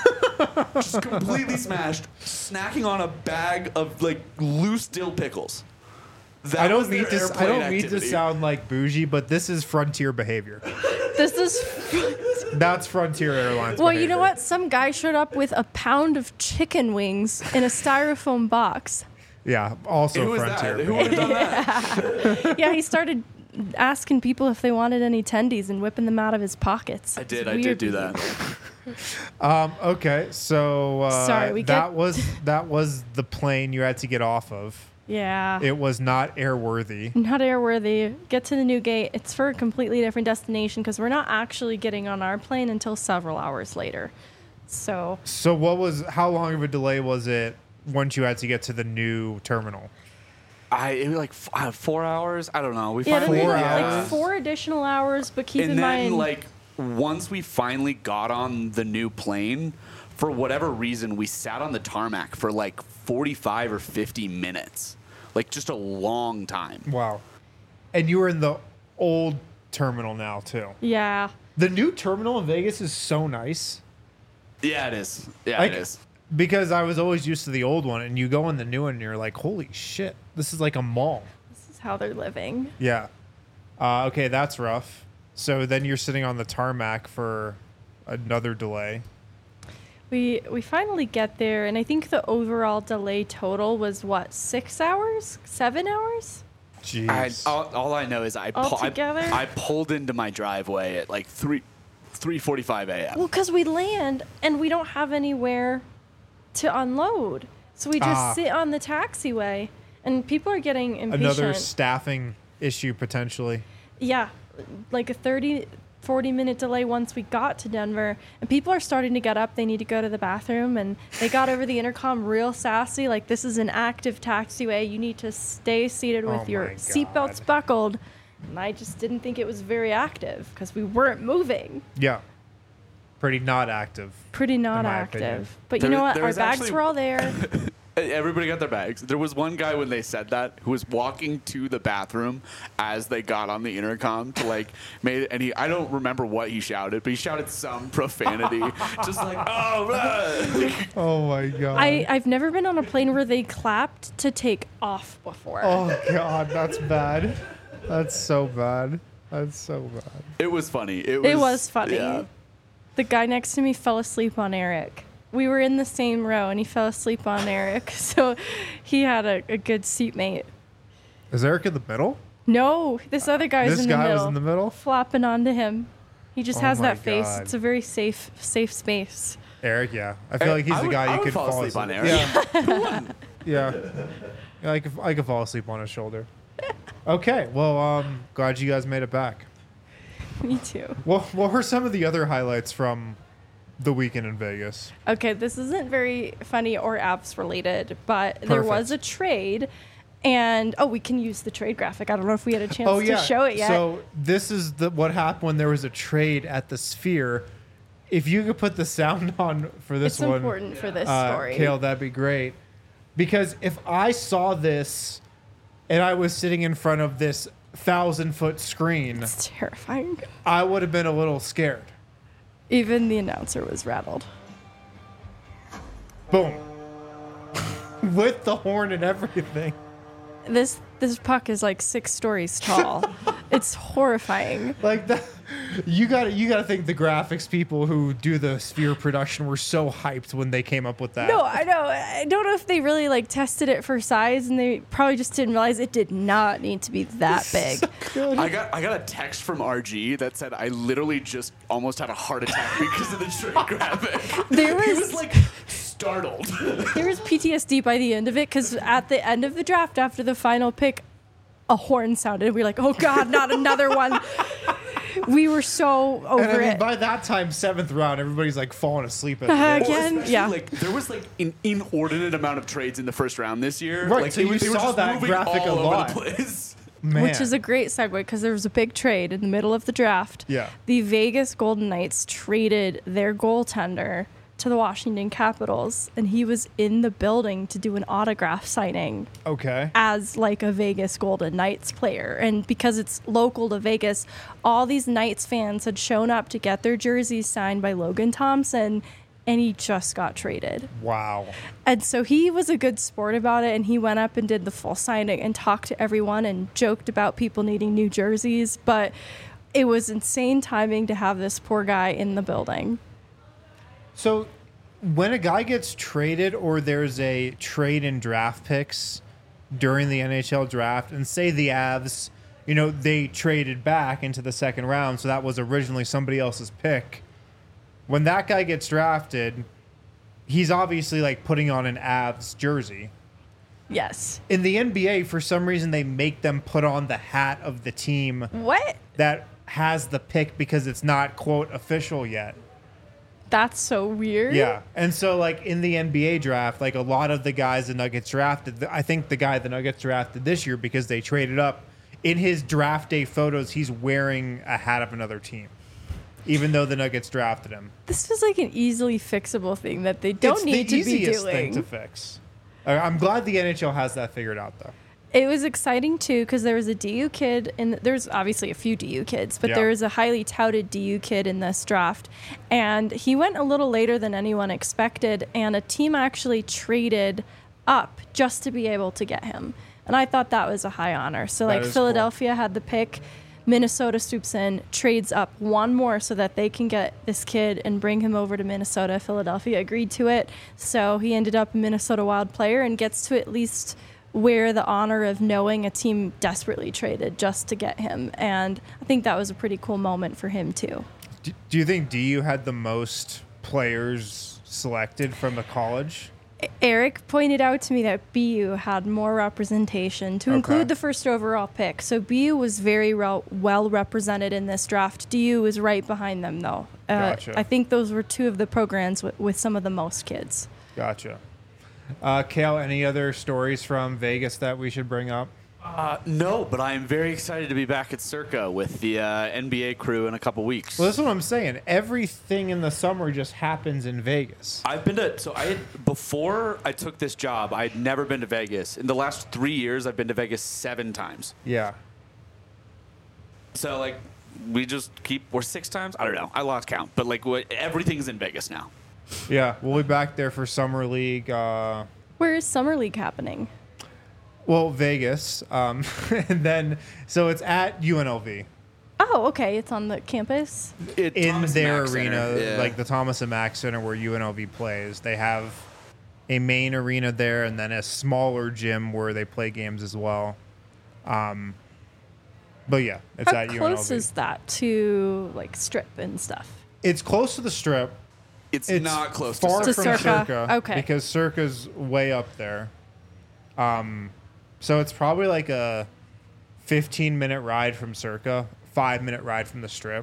Just completely smashed, snacking on a bag of like loose dill pickles. That I was don't their mean to. I airplane don't mean to activity. sound like bougie, but this is Frontier behavior. This is. That's Frontier Airlines. Well, you know behavior. what? Some guy showed up with a pound of chicken wings in a styrofoam box. Yeah, also Who was Frontier. that? Who would have done that? Yeah, he started asking people if they wanted any tendies and whipping them out of his pockets. I It's did. I weird did do behavior. that. Um, okay, so uh, Sorry, we that get- was that was the plane you had to get off of. Yeah. It was not airworthy. Not airworthy. Get to the new gate. It's for a completely different destination because we're not actually getting on our plane until several hours later. So So what was? How long of a delay was it once you had to get to the new terminal? I it was like f- uh, four hours. I don't know. We yeah, finally Four then hours? like four additional hours. But keep and in then mind, like once we finally got on the new plane, for whatever reason, we sat on the tarmac for like forty-five or fifty minutes, like just a long time. Wow. And you were in the old terminal now too. yeah, The new terminal in Vegas is so nice. Yeah, it is. Yeah, Like, it is. because I was always used to the old one, and you go in the new one, and you're like, "Holy shit, this is like a mall." this is how they're living. Yeah. Uh, okay, that's rough. So then you're sitting on the tarmac for another delay. We we finally get there, and I think the overall delay total was what six hours, seven hours. Jeez. I, all, all I know is I, pu- I Altogether? I pulled into my driveway at like three three forty-five a.m. Well, because we land and we don't have anywhere to unload, so we just Ah. sit on the taxiway, and people are getting impatient. Another staffing issue potentially. Yeah, like a thirty, forty minute delay once we got to Denver, and people are starting to get up. They need to go to the bathroom, and they got over the intercom real sassy, like, this is an active taxiway. You need to stay seated with Oh your my seatbelts God. buckled. And I just didn't think it was very active because we weren't moving. Yeah. Pretty not active. Pretty not my active. opinion. But There- you know what? there Our was bags actually- were all there. Everybody got their bags. There was one guy when they said that who was walking to the bathroom as they got on the intercom to like made and he I don't remember what he shouted, but he shouted some profanity, just like oh. Blah. Oh my god. I, I've never been on a plane where they clapped to take off before. Oh god, that's bad. That's so bad. That's so bad. It was funny. It was, It was funny. Yeah. The guy next to me fell asleep on Eric. We were in the same row, and he fell asleep on Eric, so he had a, a good seatmate. Is Eric in the middle? No, this other guy was This in the guy middle. was in the middle? Flopping onto him. He just Oh has my that face. God. It's a very safe, safe space. Eric, yeah. I feel Eric- like he's I the would- guy I you would could fall fall asleep on asleep. Eric. Yeah. yeah. Yeah, I could, I could fall asleep on his shoulder. Okay, well, um, glad you guys made it back. Me too. Well, what were some of the other highlights from the weekend in Vegas? Okay, this isn't very funny or apps related, but there was a Perfect. trade, and oh, we can use the trade graphic. I don't know if we had a chance Oh, yeah. to show it yet. So this is the what happened when there was a trade at the Sphere. If you could put the sound on for this it's one, important for this uh, story. Kale, that'd be great. Because if I saw this and I was sitting in front of this thousand foot screen, It's terrifying. I would have been a little scared. Even the announcer was rattled. Boom. With the horn and everything. This this puck is like six stories tall. It's horrifying. Like that, you got you got to think the graphics people who do the Sphere production were so hyped when they came up with that. No, I know. I don't know if they really like tested it for size, and they probably just didn't realize it did not need to be that big. I got I got a text from R G that said I literally just almost had a heart attack because of the trade graphic. There He was- was like startled. There was P T S D by the end of it because at the end of the draft, after the final pick, a horn sounded. We were like, "Oh God, not another one!" We were so over And I mean, it. by that time, seventh round, everybody's like falling asleep at the Uh, wall. again? Especially, Yeah. Like there was like an inordinate amount of trades in the first round this year. Right, Like so they you were- they were saw just that moving graphic all a over lot. the place. Man. Which is a great segue because there was a big trade in the middle of the draft. Yeah. The Vegas Golden Knights traded their goaltender to the Washington Capitals, and he was in the building to do an autograph signing okay. as like a Vegas Golden Knights player. And because it's local to Vegas, all these Knights fans had shown up to get their jerseys signed by Logan Thompson, and he just got traded. Wow. And so he was a good sport about it, and he went up and did the full signing and talked to everyone and joked about people needing new jerseys. But it was insane timing to have this poor guy in the building. So, when a guy gets traded or there's a trade in draft picks during the N H L draft, and say the Avs, you know, they traded back into the second round, so that was originally somebody else's pick. When that guy gets drafted, he's obviously like putting on an Avs jersey. Yes. In the N B A, for some reason, they make them put on the hat of the team What? that has the pick because it's not, quote, official yet. That's so weird. Yeah. And so, like, in the N B A draft, like, a lot of the guys the Nuggets drafted, I think the guy the Nuggets drafted this year because they traded up, in his draft day photos, he's wearing a hat of another team, even though the Nuggets drafted him. This was like an easily fixable thing that they don't it's need the to be easiest doing. thing to fix. Uh, I'm glad the N H L has that figured out, though. It was exciting too because there was a D U kid, and there's obviously a few D U kids, but Yeah. there was a highly touted D U kid in this draft, and he went a little later than anyone expected, and a team actually traded up just to be able to get him, and I thought that was a high honor. So That like is Philadelphia had the pick, Minnesota swoops in, trades up one more so that they can get this kid and bring him over to Minnesota. Philadelphia agreed to it, so he ended up a Minnesota Wild player and gets to at least wear the honor of knowing a team desperately traded just to get him. And I think that was a pretty cool moment for him too. Do, do you think D U had the most players selected from the college? Eric pointed out to me that B U had more representation to Okay. include the first overall pick. So B U was very well, well represented in this draft. D U was right behind them though. Uh, Gotcha. I think those were two of the programs with, with some of the most kids. Gotcha. Uh, Kale, any other stories from Vegas that we should bring up? Uh, Uh, no, but I am very excited to be back at Circa with the uh, N B A crew in a couple weeks. Well, that's what I'm saying. Everything in the summer just happens in Vegas. I've been to so I had before I took this job. I'd never been to Vegas. In the last three years, I've been to Vegas seven times. Yeah. So like, we just keep we're six times. I don't know. I lost count, but like, what, everything's in Vegas now. Yeah, we'll be back there for Summer League. Uh, Where is Summer League happening? well, Vegas. Um, and then, so it's at U N L V. Oh, okay. It's on the campus. It, In Thomas their Mack arena, Center. Yeah. like the Thomas and Mack Center where U N L V plays. They have a main arena there and then a smaller gym where they play games as well. Um, but yeah, it's How at U N L V. close is that to like Strip and stuff? It's close to the Strip. it's, It's not close far to To from Circa. Circa. Okay. Because Circa's way up there. Um, so it's probably like a fifteen minute ride from Circa, five minute ride from the Strip.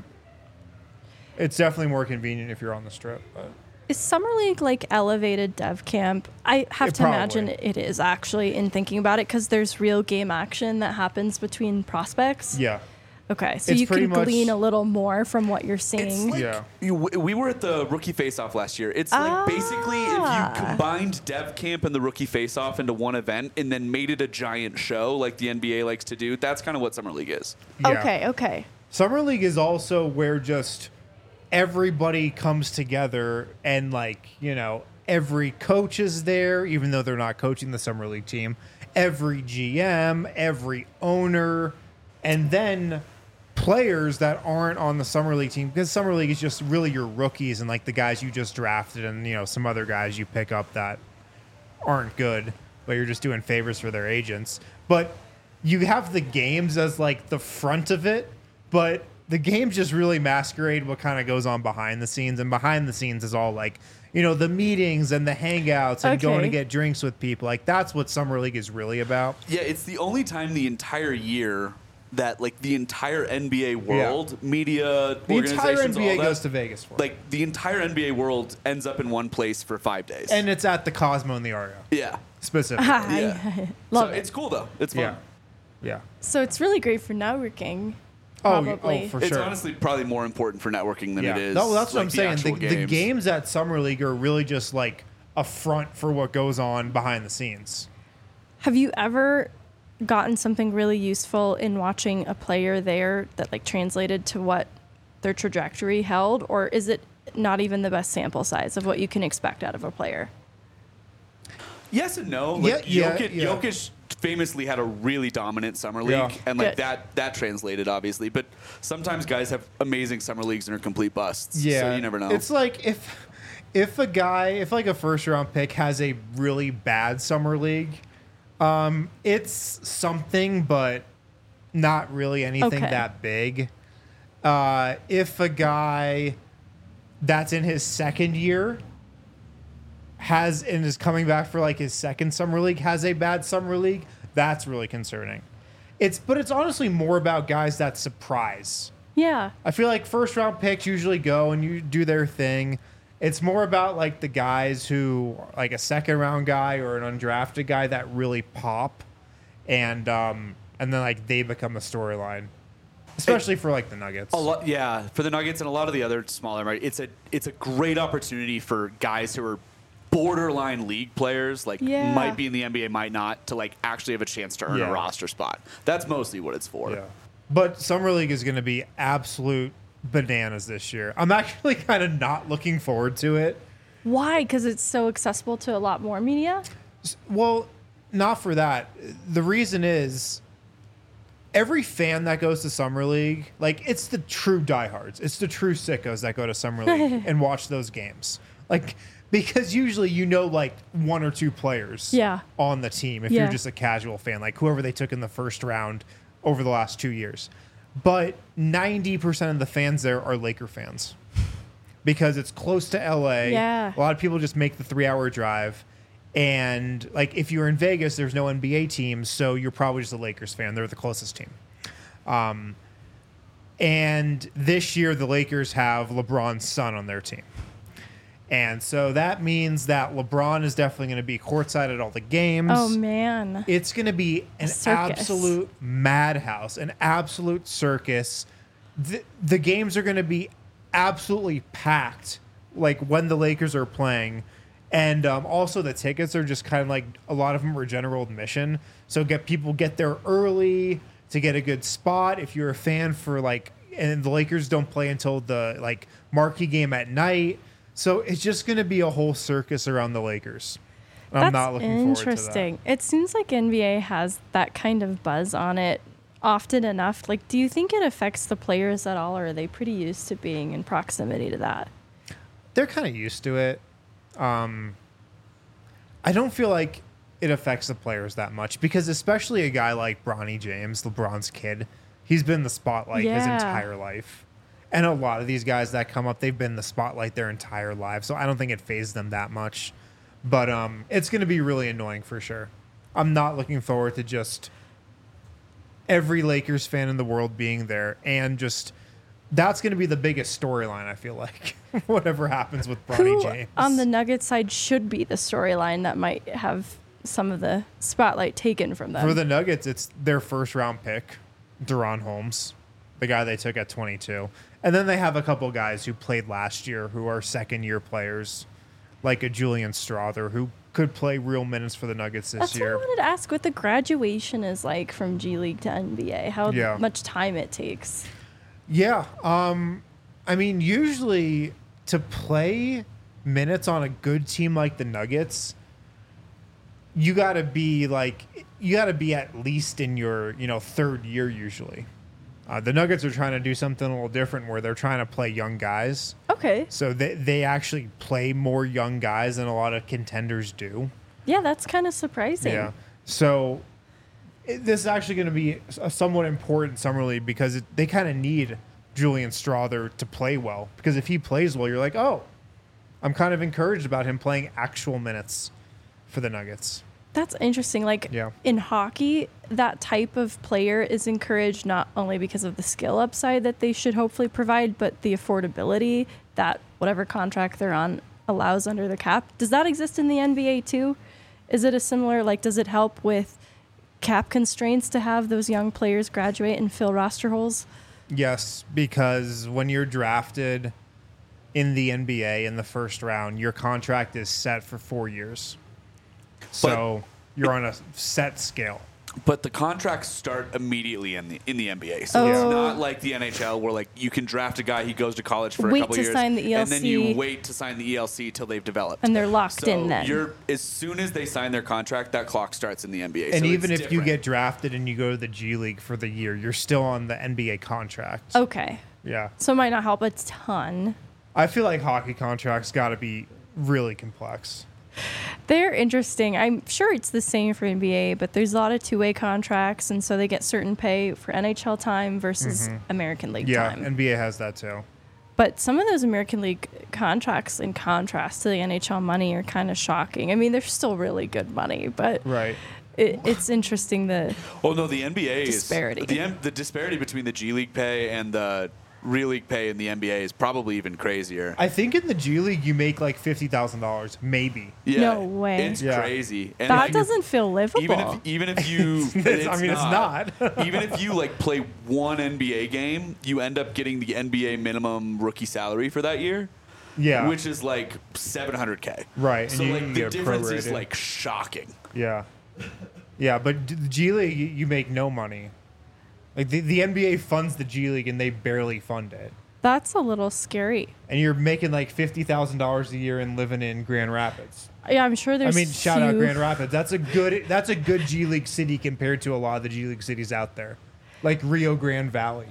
It's definitely more convenient if you're on the Strip. But Is Summer League like elevated dev camp? I have It to imagine probably- it is actually in thinking about it because there's real game action that happens between prospects. yeah, Okay, so It's you pretty can much- glean a little more from what you're It's seeing. like, Yeah. you, we were at the rookie face-off last year. It's like basically if Ah. you combined Dev Camp and the rookie face-off into one event and then made it a giant show like the N B A likes to do. That's kind of what Summer League is. yeah. Okay, okay. Summer League is also where just everybody comes together and, like, you know, every coach is there, even though they're not coaching the Summer League team. Every G M, every owner, and then players that aren't on the Summer League team, because Summer League is just really your rookies and like the guys you just drafted and, you know, some other guys you pick up that aren't good, but you're just doing favors for their agents. But you have the games as like the front of it, but the games just really masquerade what kind of goes on behind the scenes, and behind the scenes is all like, you know, the meetings and the hangouts and going to Okay. get drinks with people. Like that's what Summer League is really about. Yeah, it's the only time the entire year that like the entire N B A world, media, The entire N organizations, B A all that, goes to Vegas for it. like the entire N B A world ends up in one place for five days. And it's at the Cosmo in the Aria, yeah, specifically. Yeah. Love so it. it's cool though. It's fun. Yeah. Yeah. So it's really great for networking. Oh, Probably. oh, for It's sure. honestly probably more important for networking than yeah. it is. No, that's what like, I'm saying. The, actual the games. games at Summer League are really just like a front for what goes on behind the scenes. Have you ever gotten something really useful in watching a player there that like translated to what their trajectory held, or is it not even the best sample size of what you can expect out of a player? Yes and no. Like Yeah, yeah, Jokic, yeah. Jokic famously had a really dominant summer league, Yeah. and like Good. that that translated obviously. But sometimes guys have amazing summer leagues and are complete busts. Yeah, so you never know. It's like if if a guy, if like a first round pick has a really bad summer league, um, it's something, but not really anything Okay. that big. Uh, if a guy that's in his second year has and is coming back for like his second summer league has a bad summer league, that's really concerning. It's but it's honestly more about guys that surprise. Yeah. I feel like first round picks usually go and you do their thing. It's more about like the guys who like a second round guy or an undrafted guy that really pop, and um and then like they become the storyline, especially for like the Nuggets. a lot, yeah, for the Nuggets and a lot of the other smaller, right? It's a it's a great opportunity for guys who are borderline league players, like Yeah. might be in the N B A, might not, to like actually have a chance to earn Yeah. a roster spot. That's mostly what it's for. Yeah. But Summer League is going to be absolute bananas this year. I'm actually kind of not looking forward to it. Why? Because it's so accessible to a lot more media? Well, not for that. The reason is every fan that goes to Summer League, like it's the true diehards. It's the true sickos that go to Summer League and watch those games. Like because usually you know like one or two players Yeah. on the team if Yeah. you're just a casual fan, like whoever they took in the first round over the last two years. But ninety percent of the fans there are Laker fans because it's close to L A. Yeah. A lot of people just make the three hour drive. And like if you're in Vegas, there's no N B A teams, so you're probably just a Lakers fan. They're the closest team. Um, and this year, the Lakers have LeBron's son on their team. And so that means that LeBron is definitely going to be courtside at all the games. Oh man. It's going to be an circus. absolute madhouse, an absolute circus. The, the games are going to be absolutely packed, like when the Lakers are playing. And um, also the tickets are just kind of like, a lot of them are general admission. So get people get there early to get a good spot. If you're a fan for like, and the Lakers don't play until the like marquee game at night. So it's just going to be a whole circus around the Lakers. I'm That's not looking forward to that. interesting. It seems like N B A has that kind of buzz on it often enough. Like, do you think it affects the players at all, or are they pretty used to being in proximity to that? They're kind of used to it. Um, I don't feel like it affects the players that much because especially a guy like Bronny James, LeBron's kid, he's been in the spotlight his Yeah. entire life. And a lot of these guys that come up, they've been in the spotlight their entire lives. So I don't think it fazed them that much. But um, it's going to be really annoying for sure. I'm not looking forward to just every Lakers fan in the world being there. And just that's going to be the biggest storyline, I feel like, whatever happens with Bronny Who James. on the Nuggets side should be the storyline that might have some of the spotlight taken from them? For the Nuggets, it's their first round pick, Deron Holmes, the guy they took at twenty-two. And then they have a couple guys who played last year who are second year players, like a Julian Strother, who could play real minutes for the Nuggets this That's year. what I wanted to ask what the graduation is like from G League to N B A, how Yeah. much time it takes. Yeah. Um, I mean, usually to play minutes on a good team like the Nuggets, you got to be like, you got to be at least in your, you know, third year usually. Uh, the Nuggets are trying to do something a little different where they're trying to play young guys. Okay. So they, they actually play more young guys than a lot of contenders do. Yeah, that's kind of surprising. Yeah. So it, this is actually going to be a somewhat important summer league because it, they kind of need Julian Strother to play well. Because if he plays well, you're like, oh, I'm kind of encouraged about him playing actual minutes for the Nuggets. That's interesting. Like Yeah. in hockey, that type of player is encouraged not only because of the skill upside that they should hopefully provide, but the affordability that whatever contract they're on allows under the cap. Does that exist in the N B A too? Is it a similar, like, does it help with cap constraints to have those young players graduate and fill roster holes? Yes, because when you're drafted in the N B A in the first round, your contract is set for four years. So you're on a set scale. But the contracts start immediately in the in the N B A, so Oh. it's not like the N H L where like you can draft a guy, he goes to college for Wait a couple to years, sign the and then you E L C. wait to sign the E L C till they've developed, And they're locked so in then. You're as soon as they sign their contract, that clock starts in the N B A. And so even it's if you different. get drafted and you go to the G League for the year, you're still on the N B A contract. Okay. Yeah. So it might not help a ton. I feel like hockey contracts got to be really complex. They're interesting. I'm sure it's the same for N B A, but there's a lot of two-way contracts, and so they get certain pay for N H L time versus American League Yeah, time. N B A has that too. But some of those American League contracts, in contrast to the N H L money, are kind of shocking. I mean, they're still really good money, but Right. it, it's interesting the Oh no, the N B A Disparity. is the M- the disparity between the G League pay and the Real League pay in the N B A is probably even crazier. I think in the G League you make like fifty thousand dollars, maybe. Yeah, No way. It's Yeah. crazy. And that like, doesn't feel livable. even if even if you, It's- I mean, it's not. even if you like play one N B A game, you end up getting the N B A minimum rookie salary for that year. Yeah. Which is like seven hundred K. Right, So and you like can the get difference is prorated. like shocking. Yeah. Yeah, but d- the G League you, you make no money. Like the, the N B A funds the G League and they barely fund it. That's a little scary. And you're making like fifty thousand dollars a year and living in Grand Rapids. Yeah, I'm sure I there's. mean, shout out few- Grand Rapids. That's a good that's a good G League city compared to a lot of the G League cities out there. Like Rio Grande Valley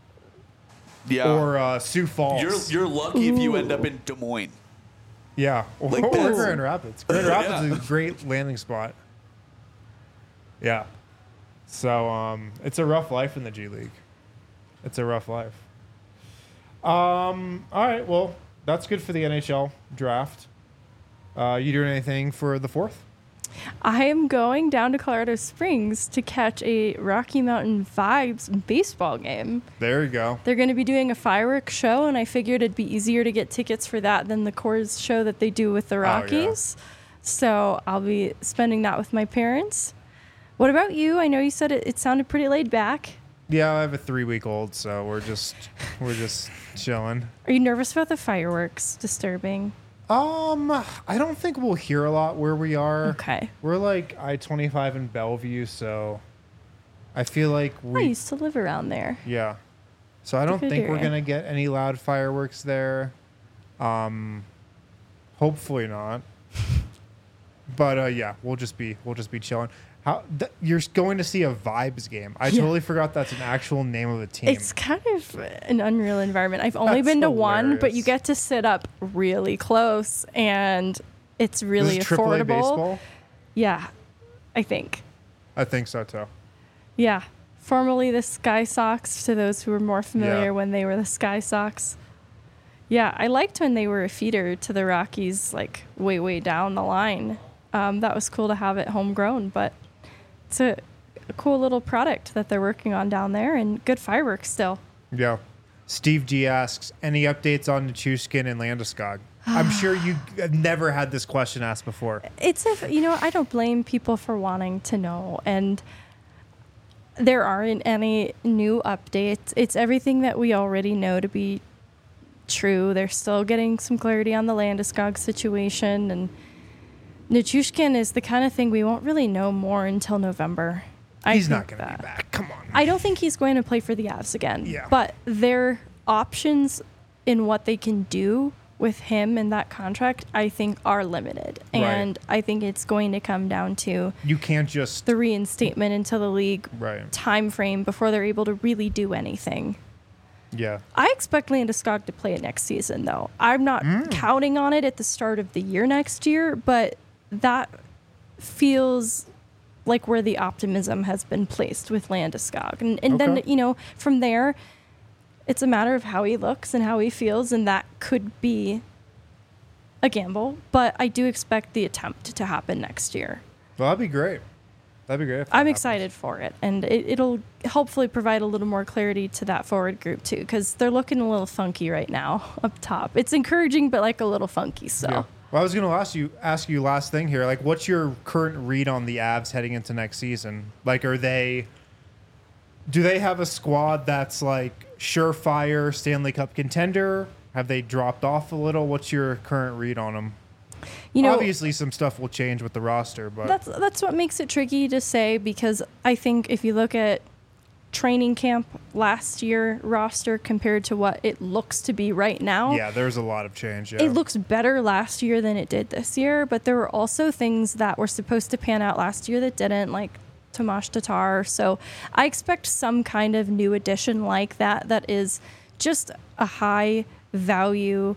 Yeah. or uh, Sioux Falls. you're you're lucky if you end Ooh. up in Des Moines. Yeah, or, Like, or that's- Grand Rapids. Grand Rapids Yeah. is a great landing spot. Yeah. So um, it's a rough life in the G League. It's a rough life. Um. All right. Well, that's good for the N H L draft. Uh, you doing anything for the fourth? I am going down to Colorado Springs to catch a Rocky Mountain Vibes baseball game. There you go. They're going to be doing a fireworks show, and I figured it'd be easier to get tickets for that than the Coors show that they do with the Rockies. Oh, yeah. So I'll be spending that with my parents. What about you? I know you said it, it sounded pretty laid back. Yeah, I have a three-week-old, so we're just we're just chilling. Are you nervous about the fireworks disturbing? Um, I don't think we'll hear a lot where we are. Okay. We're like I twenty-five in Bellevue, so I feel like we I used to live around there. Yeah. So I don't Good think we're area. going to get any loud fireworks there. Um hopefully not. But uh yeah, we'll just be we'll just be chilling. How th- you're going to see a Vibes game? I Yeah. totally forgot that's an actual name of a team. It's kind of an unreal environment. I've only That's been to one, but hilarious. you get to sit up really close, and it's This really is triple A affordable. baseball? Yeah, I think. I think so too. Yeah. Formerly the Sky Sox, to those who are more familiar Yeah. when they were the Sky Sox. Yeah, I liked when they were a feeder to the Rockies, like way, way down the line. Um, that was cool to have it homegrown, but it's a, a cool little product that they're working on down there, and good fireworks still. Yeah. Steve G asks, any updates on Nichushkin and Landeskog? I'm sure you have never had this question asked before. It's a, you know, I don't blame people for wanting to know, and there aren't any new updates. It's everything that we already know to be true. They're still getting some clarity on the Landeskog situation, and Nichushkin is the kind of thing we won't really know more until November. I He's not think going to that. be back. Come on. I don't think he's going to play for the Avs again. Yeah. But their options in what they can do with him and that contract, I think, are limited. Right. And I think it's going to come down to You can't just. the reinstatement into the league Right. time frame before they're able to really do anything. Yeah. I expect Landeskog to play it next season, though. I'm not Mm. counting on it at the start of the year next year, but that feels like where the optimism has been placed with Landeskog. And, and then, Okay. you know, from there, it's a matter of how he looks and how he feels, and that could be a gamble. But I do expect the attempt to happen next year. Well, that'd be great. That'd be great. if that I'm happens. excited for it, and it, it'll hopefully provide a little more clarity to that forward group, too, because they're looking a little funky right now up top. It's encouraging, but like a little funky, so. Yeah. Well, I was going to ask you ask you last thing here. Like, what's your current read on the Avs heading into next season? Like, are they? Do they have a squad that's like surefire Stanley Cup contender? Have they dropped off a little? What's your current read on them? You know, Obviously, some stuff will change with the roster, but that's that's what makes it tricky to say, because I think if you look at training camp last year roster compared to what it looks to be right now, yeah, there's a lot of change. Yeah. it looks better last year than it did this year. But there were also things that were supposed to pan out last year that didn't, like Tomas Tatar. So I expect some kind of new addition like that that is just a high value,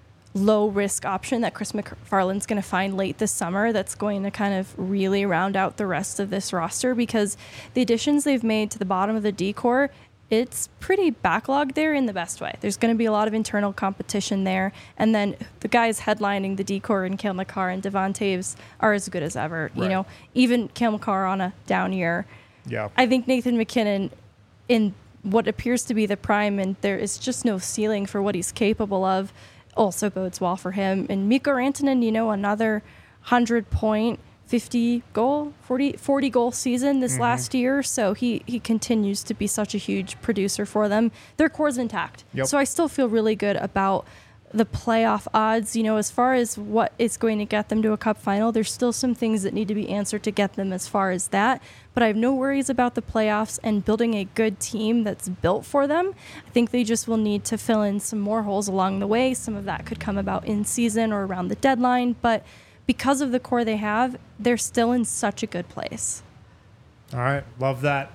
low risk option that Chris McFarland's going to find late this summer that's going to kind of really round out the rest of this roster, because the additions they've made to the bottom of the D-core, it's pretty backlogged there in the best way. There's going to be a lot of internal competition there, and then the guys headlining the D-core and Cale Makar and Devon Taves are as good as ever. You Right. know, even Cale Makar on a down year. yeah. I think Nathan McKinnon, in what appears to be the prime, and there is just no ceiling for what he's capable of, also bodes well for him. And Mikko Rantanen, you know, another one hundred point, fifty goal, forty, forty goal season this Mm-hmm. last year. So he, he continues to be such a huge producer for them. Their core's intact. Yep. So I still feel really good about the playoff odds. You know, as far as what is going to get them to a cup final, there's still some things that need to be answered to get them as far as that. But I have no worries about the playoffs and building a good team that's built for them. I think they just will need to fill in some more holes along the way. Some of that could come about in season or around the deadline. But because of the core they have, they're still in such a good place. All right. Love that.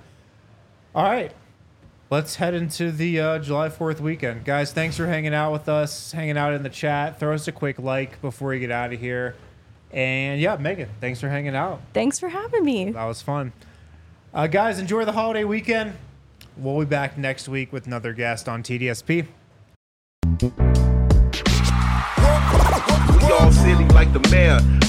All right. Let's head into the uh, July fourth weekend. Guys, thanks for hanging out with us, hanging out in the chat. Throw us a quick like before you get out of here. And yeah, Megan, thanks for hanging out. Thanks for having me. That was fun. Uh, guys, enjoy the holiday weekend. We'll be back next week with another guest on T D S P. We all silly like the mayor.